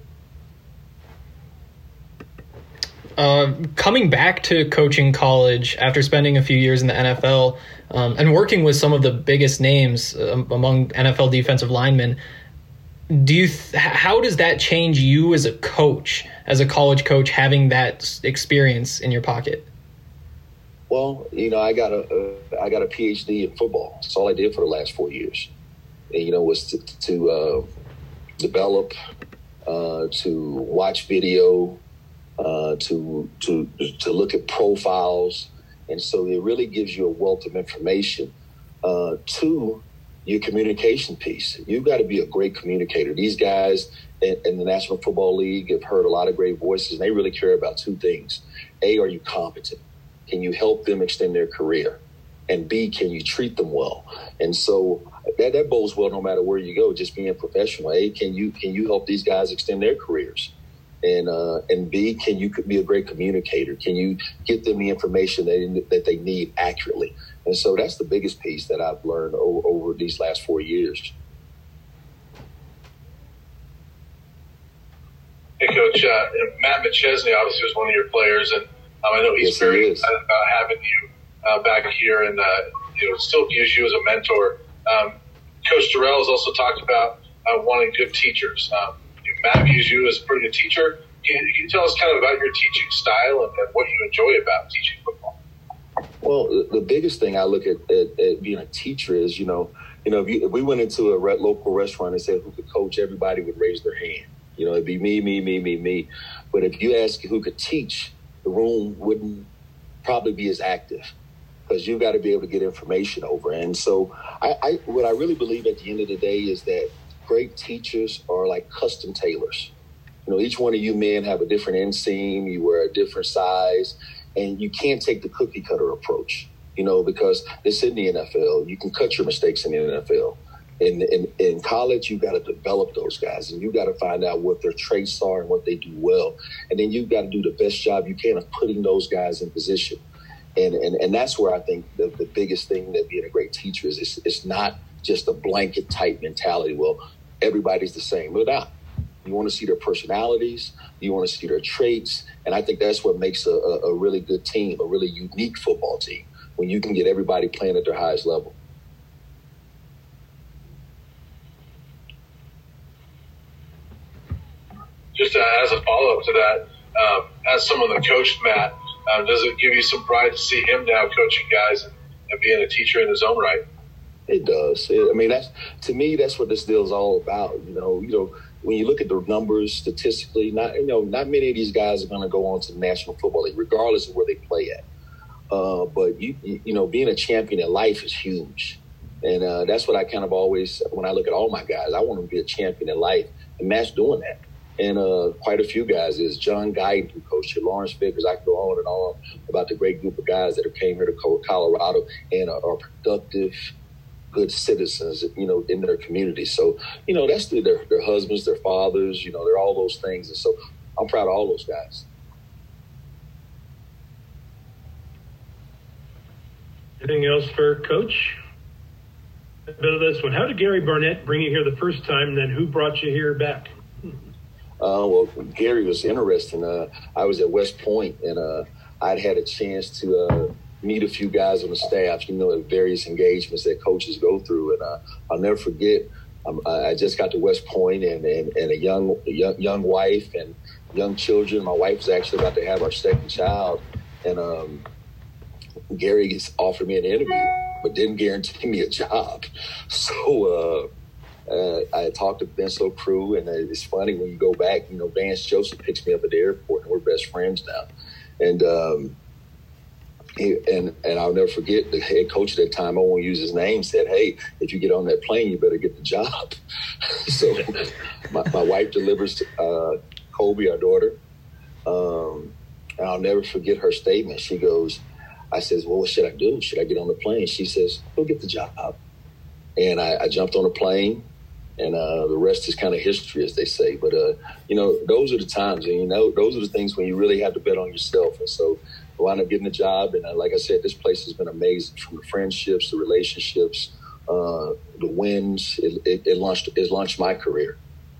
Uh, coming back to coaching college after spending a few years in the N F L um, and working with some of the biggest names um, among N F L defensive linemen, do you th- how does that change you as a coach, as a college coach, having that experience in your pocket? Well, you know, I got a uh, I got a P H D in football. That's all I did for the last four years. And, you know, was to, to uh, develop, uh, to watch video, uh, to to to look at profiles, and so it really gives you a wealth of information. Uh, two, your communication piece. You've got to be a great communicator. These guys in, in the National Football League have heard a lot of great voices, and they really care about two things. A, are you competent? Can you help them extend their career? And B, can you treat them well? And so that, that bodes well no matter where you go, just being professional. A, can you can you help these guys extend their careers? And uh, and B, can you be a great communicator? Can you get them the information that, that they need accurately? And so that's the biggest piece that I've learned over, over these last four years. Hey, Coach, uh, Matt McChesney obviously was one of your players, and um, I know he's yes, very he excited about having you uh, back here, and uh, you know, still views you as a mentor. Um, Coach Dorrell has also talked about uh, wanting good teachers. Um, Matt views you as a pretty good teacher. Can, can you tell us kind of about your teaching style and, and what you enjoy about teaching football? Well, the, the biggest thing I look at, at, at being a teacher is, you know, you know, if, you, if we went into a re- local restaurant and said who could coach, everybody would raise their hand. You know, it'd be me, me, me, me, me. But if you ask who could teach, the room wouldn't probably be as active, because you've got to be able to get information over. And so I, I what I really believe at the end of the day is that great teachers are like custom tailors. You know, each one of you men have a different inseam, you wear a different size, and you can't take the cookie cutter approach, you know, because it's in the N F L. You can cut your mistakes in the N F L. In, in, in college, you've got to develop those guys, and you've got to find out what their traits are and what they do well. And then you've got to do the best job you can of putting those guys in position. And and, and that's where I think the, the biggest thing that being a great teacher is, it's, it's not just a blanket type mentality. Well, everybody's the same. But not. You want to see their personalities. You want to see their traits. And I think that's what makes a, a, a really good team, a really unique football team, when you can get everybody playing at their highest level. Just uh, as a follow-up to that, um, as someone that coached Matt, um, does it give you some pride to see him now coaching guys and, and being a teacher in his own right? It does. It, I mean, that's to me, that's what this deal is all about. You know, you know, when you look at the numbers statistically, not you know, not many of these guys are going to go on to the National Football League, regardless of where they play at. Uh, but you, you know, being a champion in life is huge, and uh, that's what I kind of always, when I look at all my guys, I want them to be a champion in life, and Matt's doing that. And uh, quite a few guys is John Guyton, who coached here, Lawrence Vickers. I could go on and on about the great group of guys that have came here to Colorado and are, are productive, good citizens, you know, in their community. So, you know, that's their, their husbands, their fathers, you know, they're all those things. And so I'm proud of all those guys. Anything else for Coach? A bit of this one. How did Gary Barnett bring you here the first time, and then who brought you here back? Uh, well, Gary was interesting. Uh, I was at West Point, and uh, I'd had a chance to uh, meet a few guys on the staff, you know, at various engagements that coaches go through. And uh, I'll never forget, um, I just got to West Point and, and, and a young, young young wife and young children. My wife was actually about to have our second child. And um, Gary offered me an interview but didn't guarantee me a job. So uh, uh, I talked to Vince Crew, and it's funny when you go back, you know, Vance Joseph picks me up at the airport, and we're best friends now. And um, he, and and I'll never forget the head coach at that time, I won't use his name, said, "Hey, if you get on that plane, you better get the job." So my, my wife delivers uh, Kobe, our daughter. Um, and I'll never forget her statement. She goes, I says, "Well, what should I do? Should I get on the plane?" She says, "Go get the job." And I, I jumped on a plane, and uh, the rest is kind of history, as they say. But, uh, you know, those are the times, and, you know, those are the things when you really have to bet on yourself. And so I wound up getting a job. And uh, like I said, this place has been amazing, from the friendships, the relationships, uh, the wins. It, it, it, launched, it launched my career.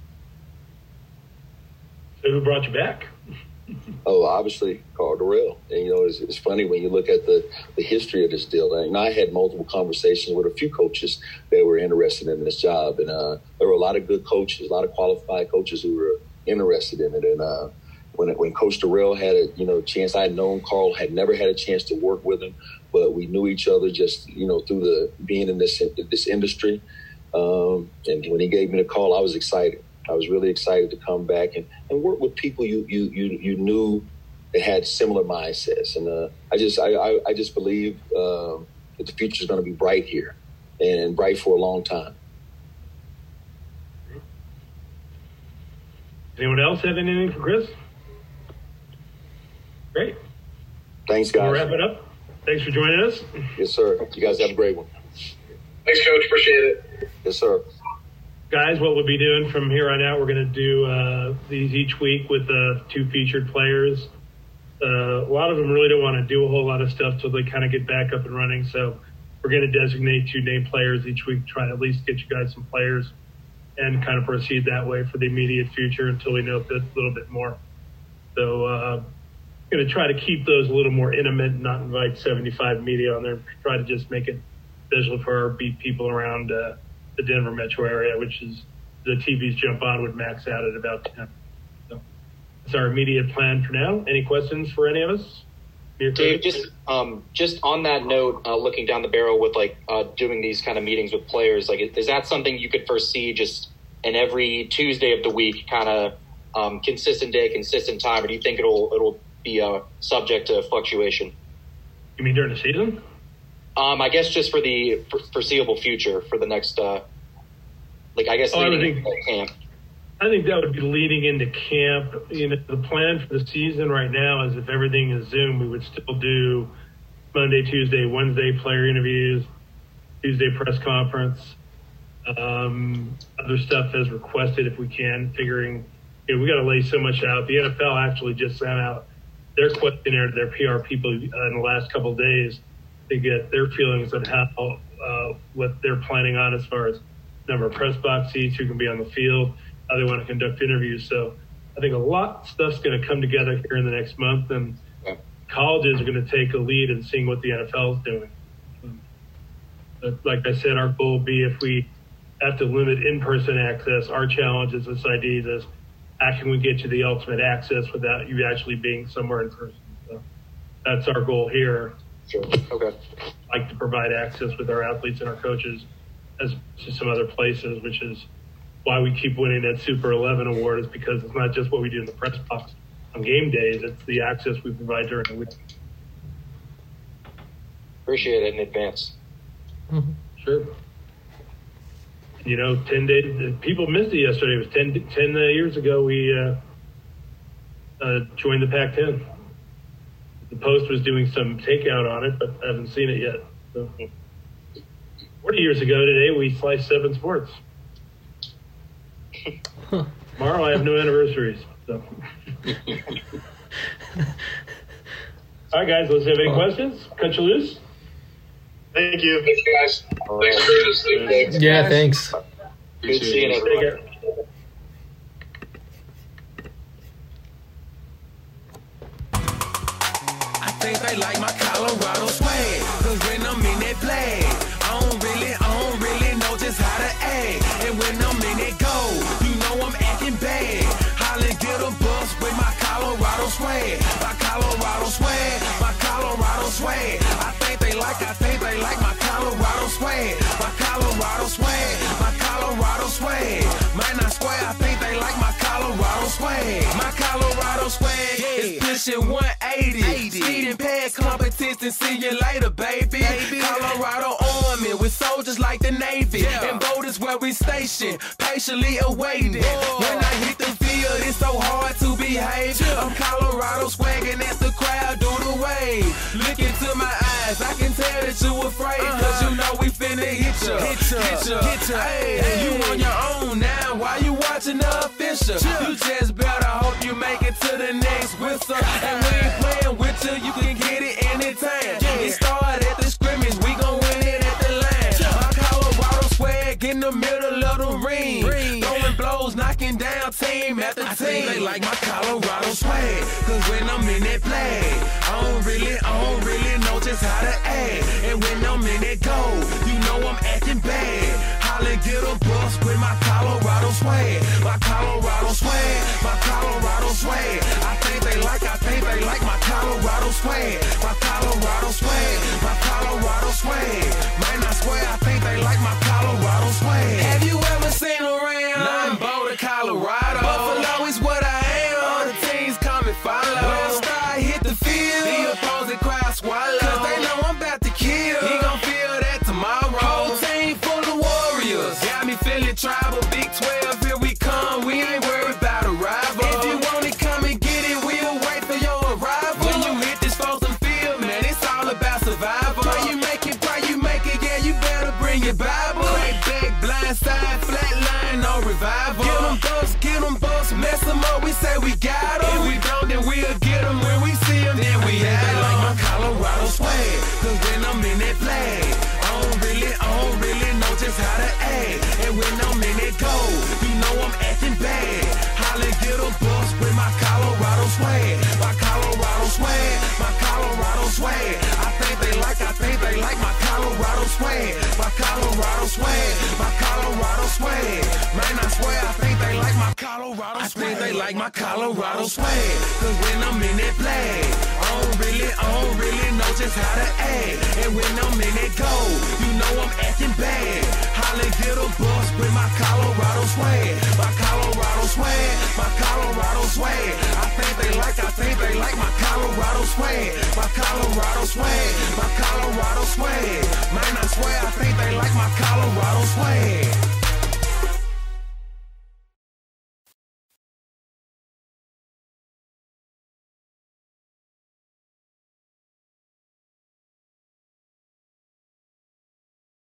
So who brought you back? Oh, obviously, Karl Dorrell. And, you know, it's, it's funny when you look at the, the history of this deal. And I had multiple conversations with a few coaches that were interested in this job. And uh, there were a lot of good coaches, a lot of qualified coaches who were interested in it. And uh, when when Coach Dorrell had a, you know, chance, I had known Karl, had never had a chance to work with him, but we knew each other just, you know, through the being in this, this industry. Um, and when he gave me the call, I was excited. I was really excited to come back and, and work with people you you you, you knew that had similar mindsets. And uh, I just I, I, I just believe uh, that the future is going to be bright here, and bright for a long time. Anyone else have anything for Chris? Great. Thanks, guys. We'll wrap it up. Thanks for joining us. Yes, sir. You guys have a great one. Thanks, Coach. Appreciate it. Yes, sir. Guys, what we'll be doing from here on out, we're going to do uh, these each week with uh, two featured players. Uh, a lot of them really don't want to do a whole lot of stuff till they kind of get back up and running. So we're going to designate two named players each week, try to at least get you guys some players and kind of proceed that way for the immediate future until we know a bit, little bit more. So uh, I'm going to try to keep those a little more intimate and not invite seventy-five media on there. Try to just make it visual for our beat people around uh, the Denver metro area, which is the T Vs jump on would max out at about ten. So that's our immediate plan for now. Any questions for any of us? Dave, just um, just on that note, uh, looking down the barrel with like uh, doing these kind of meetings with players, like is that something you could foresee just in every Tuesday of the week, kind of um, consistent day, consistent time, or do you think it'll it'll be uh, subject to fluctuation? You mean during the season? Um, I guess just for the foreseeable future, for the next, uh, like I guess oh, leading I think, into camp. I think that would be leading into camp. You know, the plan for the season right now is if everything is Zoom, we would still do Monday, Tuesday, Wednesday player interviews, Tuesday press conference, um, other stuff as requested if we can. Figuring, you know, we got to lay so much out. The N F L actually just sent out their questionnaire to their P R people uh, in the last couple of days to get their feelings on how uh, what they're planning on as far as number of press box seats, who can be on the field, how they want to conduct interviews. So I think a lot of stuff's going to come together here in the next month, and colleges are going to take a lead in seeing what the N F L is doing. But like I said, our goal will be if we have to limit in-person access, our challenge as S I Ds is how can we get you the ultimate access without you actually being somewhere in person. So that's our goal here. Sure. Okay. Like to provide access with our athletes and our coaches as to some other places, which is why we keep winning that Super eleven award, is because it's not just what we do in the press box on game days, it's the access we provide during the week. Appreciate it in advance. Mm-hmm. Sure. You know, ten days, people missed it yesterday. It was ten, ten uh, years ago we uh, uh, joined the Pac ten. The Post was doing some takeout on it, but I haven't seen it yet. So, forty years ago today, we sliced seven sports. Tomorrow, I have no anniversaries. So. All right, guys, let's have any questions? Cut you loose. Thank you. Thanks, guys. Thanks for doing this. Yeah, thanks. Good seeing everyone. I think they like my Colorado swag, cause when I'm in that flag, I don't really, I don't really know just how to act. And when I'm in that goal, you know I'm acting bad. Holly get a bus with my Colorado swag, my Colorado swag, my Colorado swag. I think they like, I think they like my Colorado Colorado swag, my Colorado swag. Man, I swear I think they like my Colorado swag. My Colorado swag is pushing one eighty. Speeding past competition, see you later, baby. Colorado Army with soldiers like the Navy. And boat is where we station, patiently awaiting. When I hit the field, it's so hard to behave. I'm Colorado swagging as the crowd do the wave. Look into my eyes, I can tell that you afraid. Cause you know we finna hit ya, hit ya, hit ya, hit ya. Hey, you on your own now, why you watching the official? You just better hope you make it to the next whistle. And we ain't playing with you, you can get it anytime. It started at the scrimmage, we gon' win it at the line. My Colorado swag in the middle of the ring, throwing blows, knocking down team after team. I think they like my Colorado swag, cause when I'm in that play, I don't really, I don't really know just how to act. And when I'm in that goal, you know I'm acting bad. Holla, get a bus with my Colorado swag, my Colorado swag, my Colorado swag. I think they like, I think they like my Colorado swag, my Colorado swag, my Colorado swag. Man, I swear I think they like my Colorado swag. Have you ever seen around? Nah, I'm Boulder, Colorado. Buffalo is what I am. All the teams come and follow. When I start hit the field, the opposing crowd swallow. Cause they know I'm about to kill. He gon' feel that tomorrow. Whole team full of warriors. Got me feeling tribal. Big twelve, here we come. We ain't worried about a rival. If you want it, come and get it. We'll wait for your arrival. When you hit this Folsom field, man, it's all about survival. Pray you make it, pray you make it. Yeah, you better bring your Bible. Crack back, blind side, flat line, no revival. Get them bucks, get them bucks, mess them up. We say we got them. If we don't, then we'll get them. When we see them, then we have them. Like my Colorado swag, cause when I'm in that flag, I don't really, I don't really know just how to act. And when I'm in that goal, you know I'm acting bad. Holla, get a bus with my Colorado swag, my Colorado swag, my Colorado swag. I think they like, I think they like my Colorado swag, my Colorado swag, my Colorado swag. Man, I swear I think they like my Colorado swag. I think they like my Colorado swag, cause when I'm in that flag, I don't really, I don't really know just how to act. And when I'm in that goal, you know I'm acting bad. Holla, get a bus with my Colorado swag, my Colorado swag, my Colorado swag. I think they like, I think they like my Colorado swag, my Colorado swag, my Colorado swag. Man, I swear I think they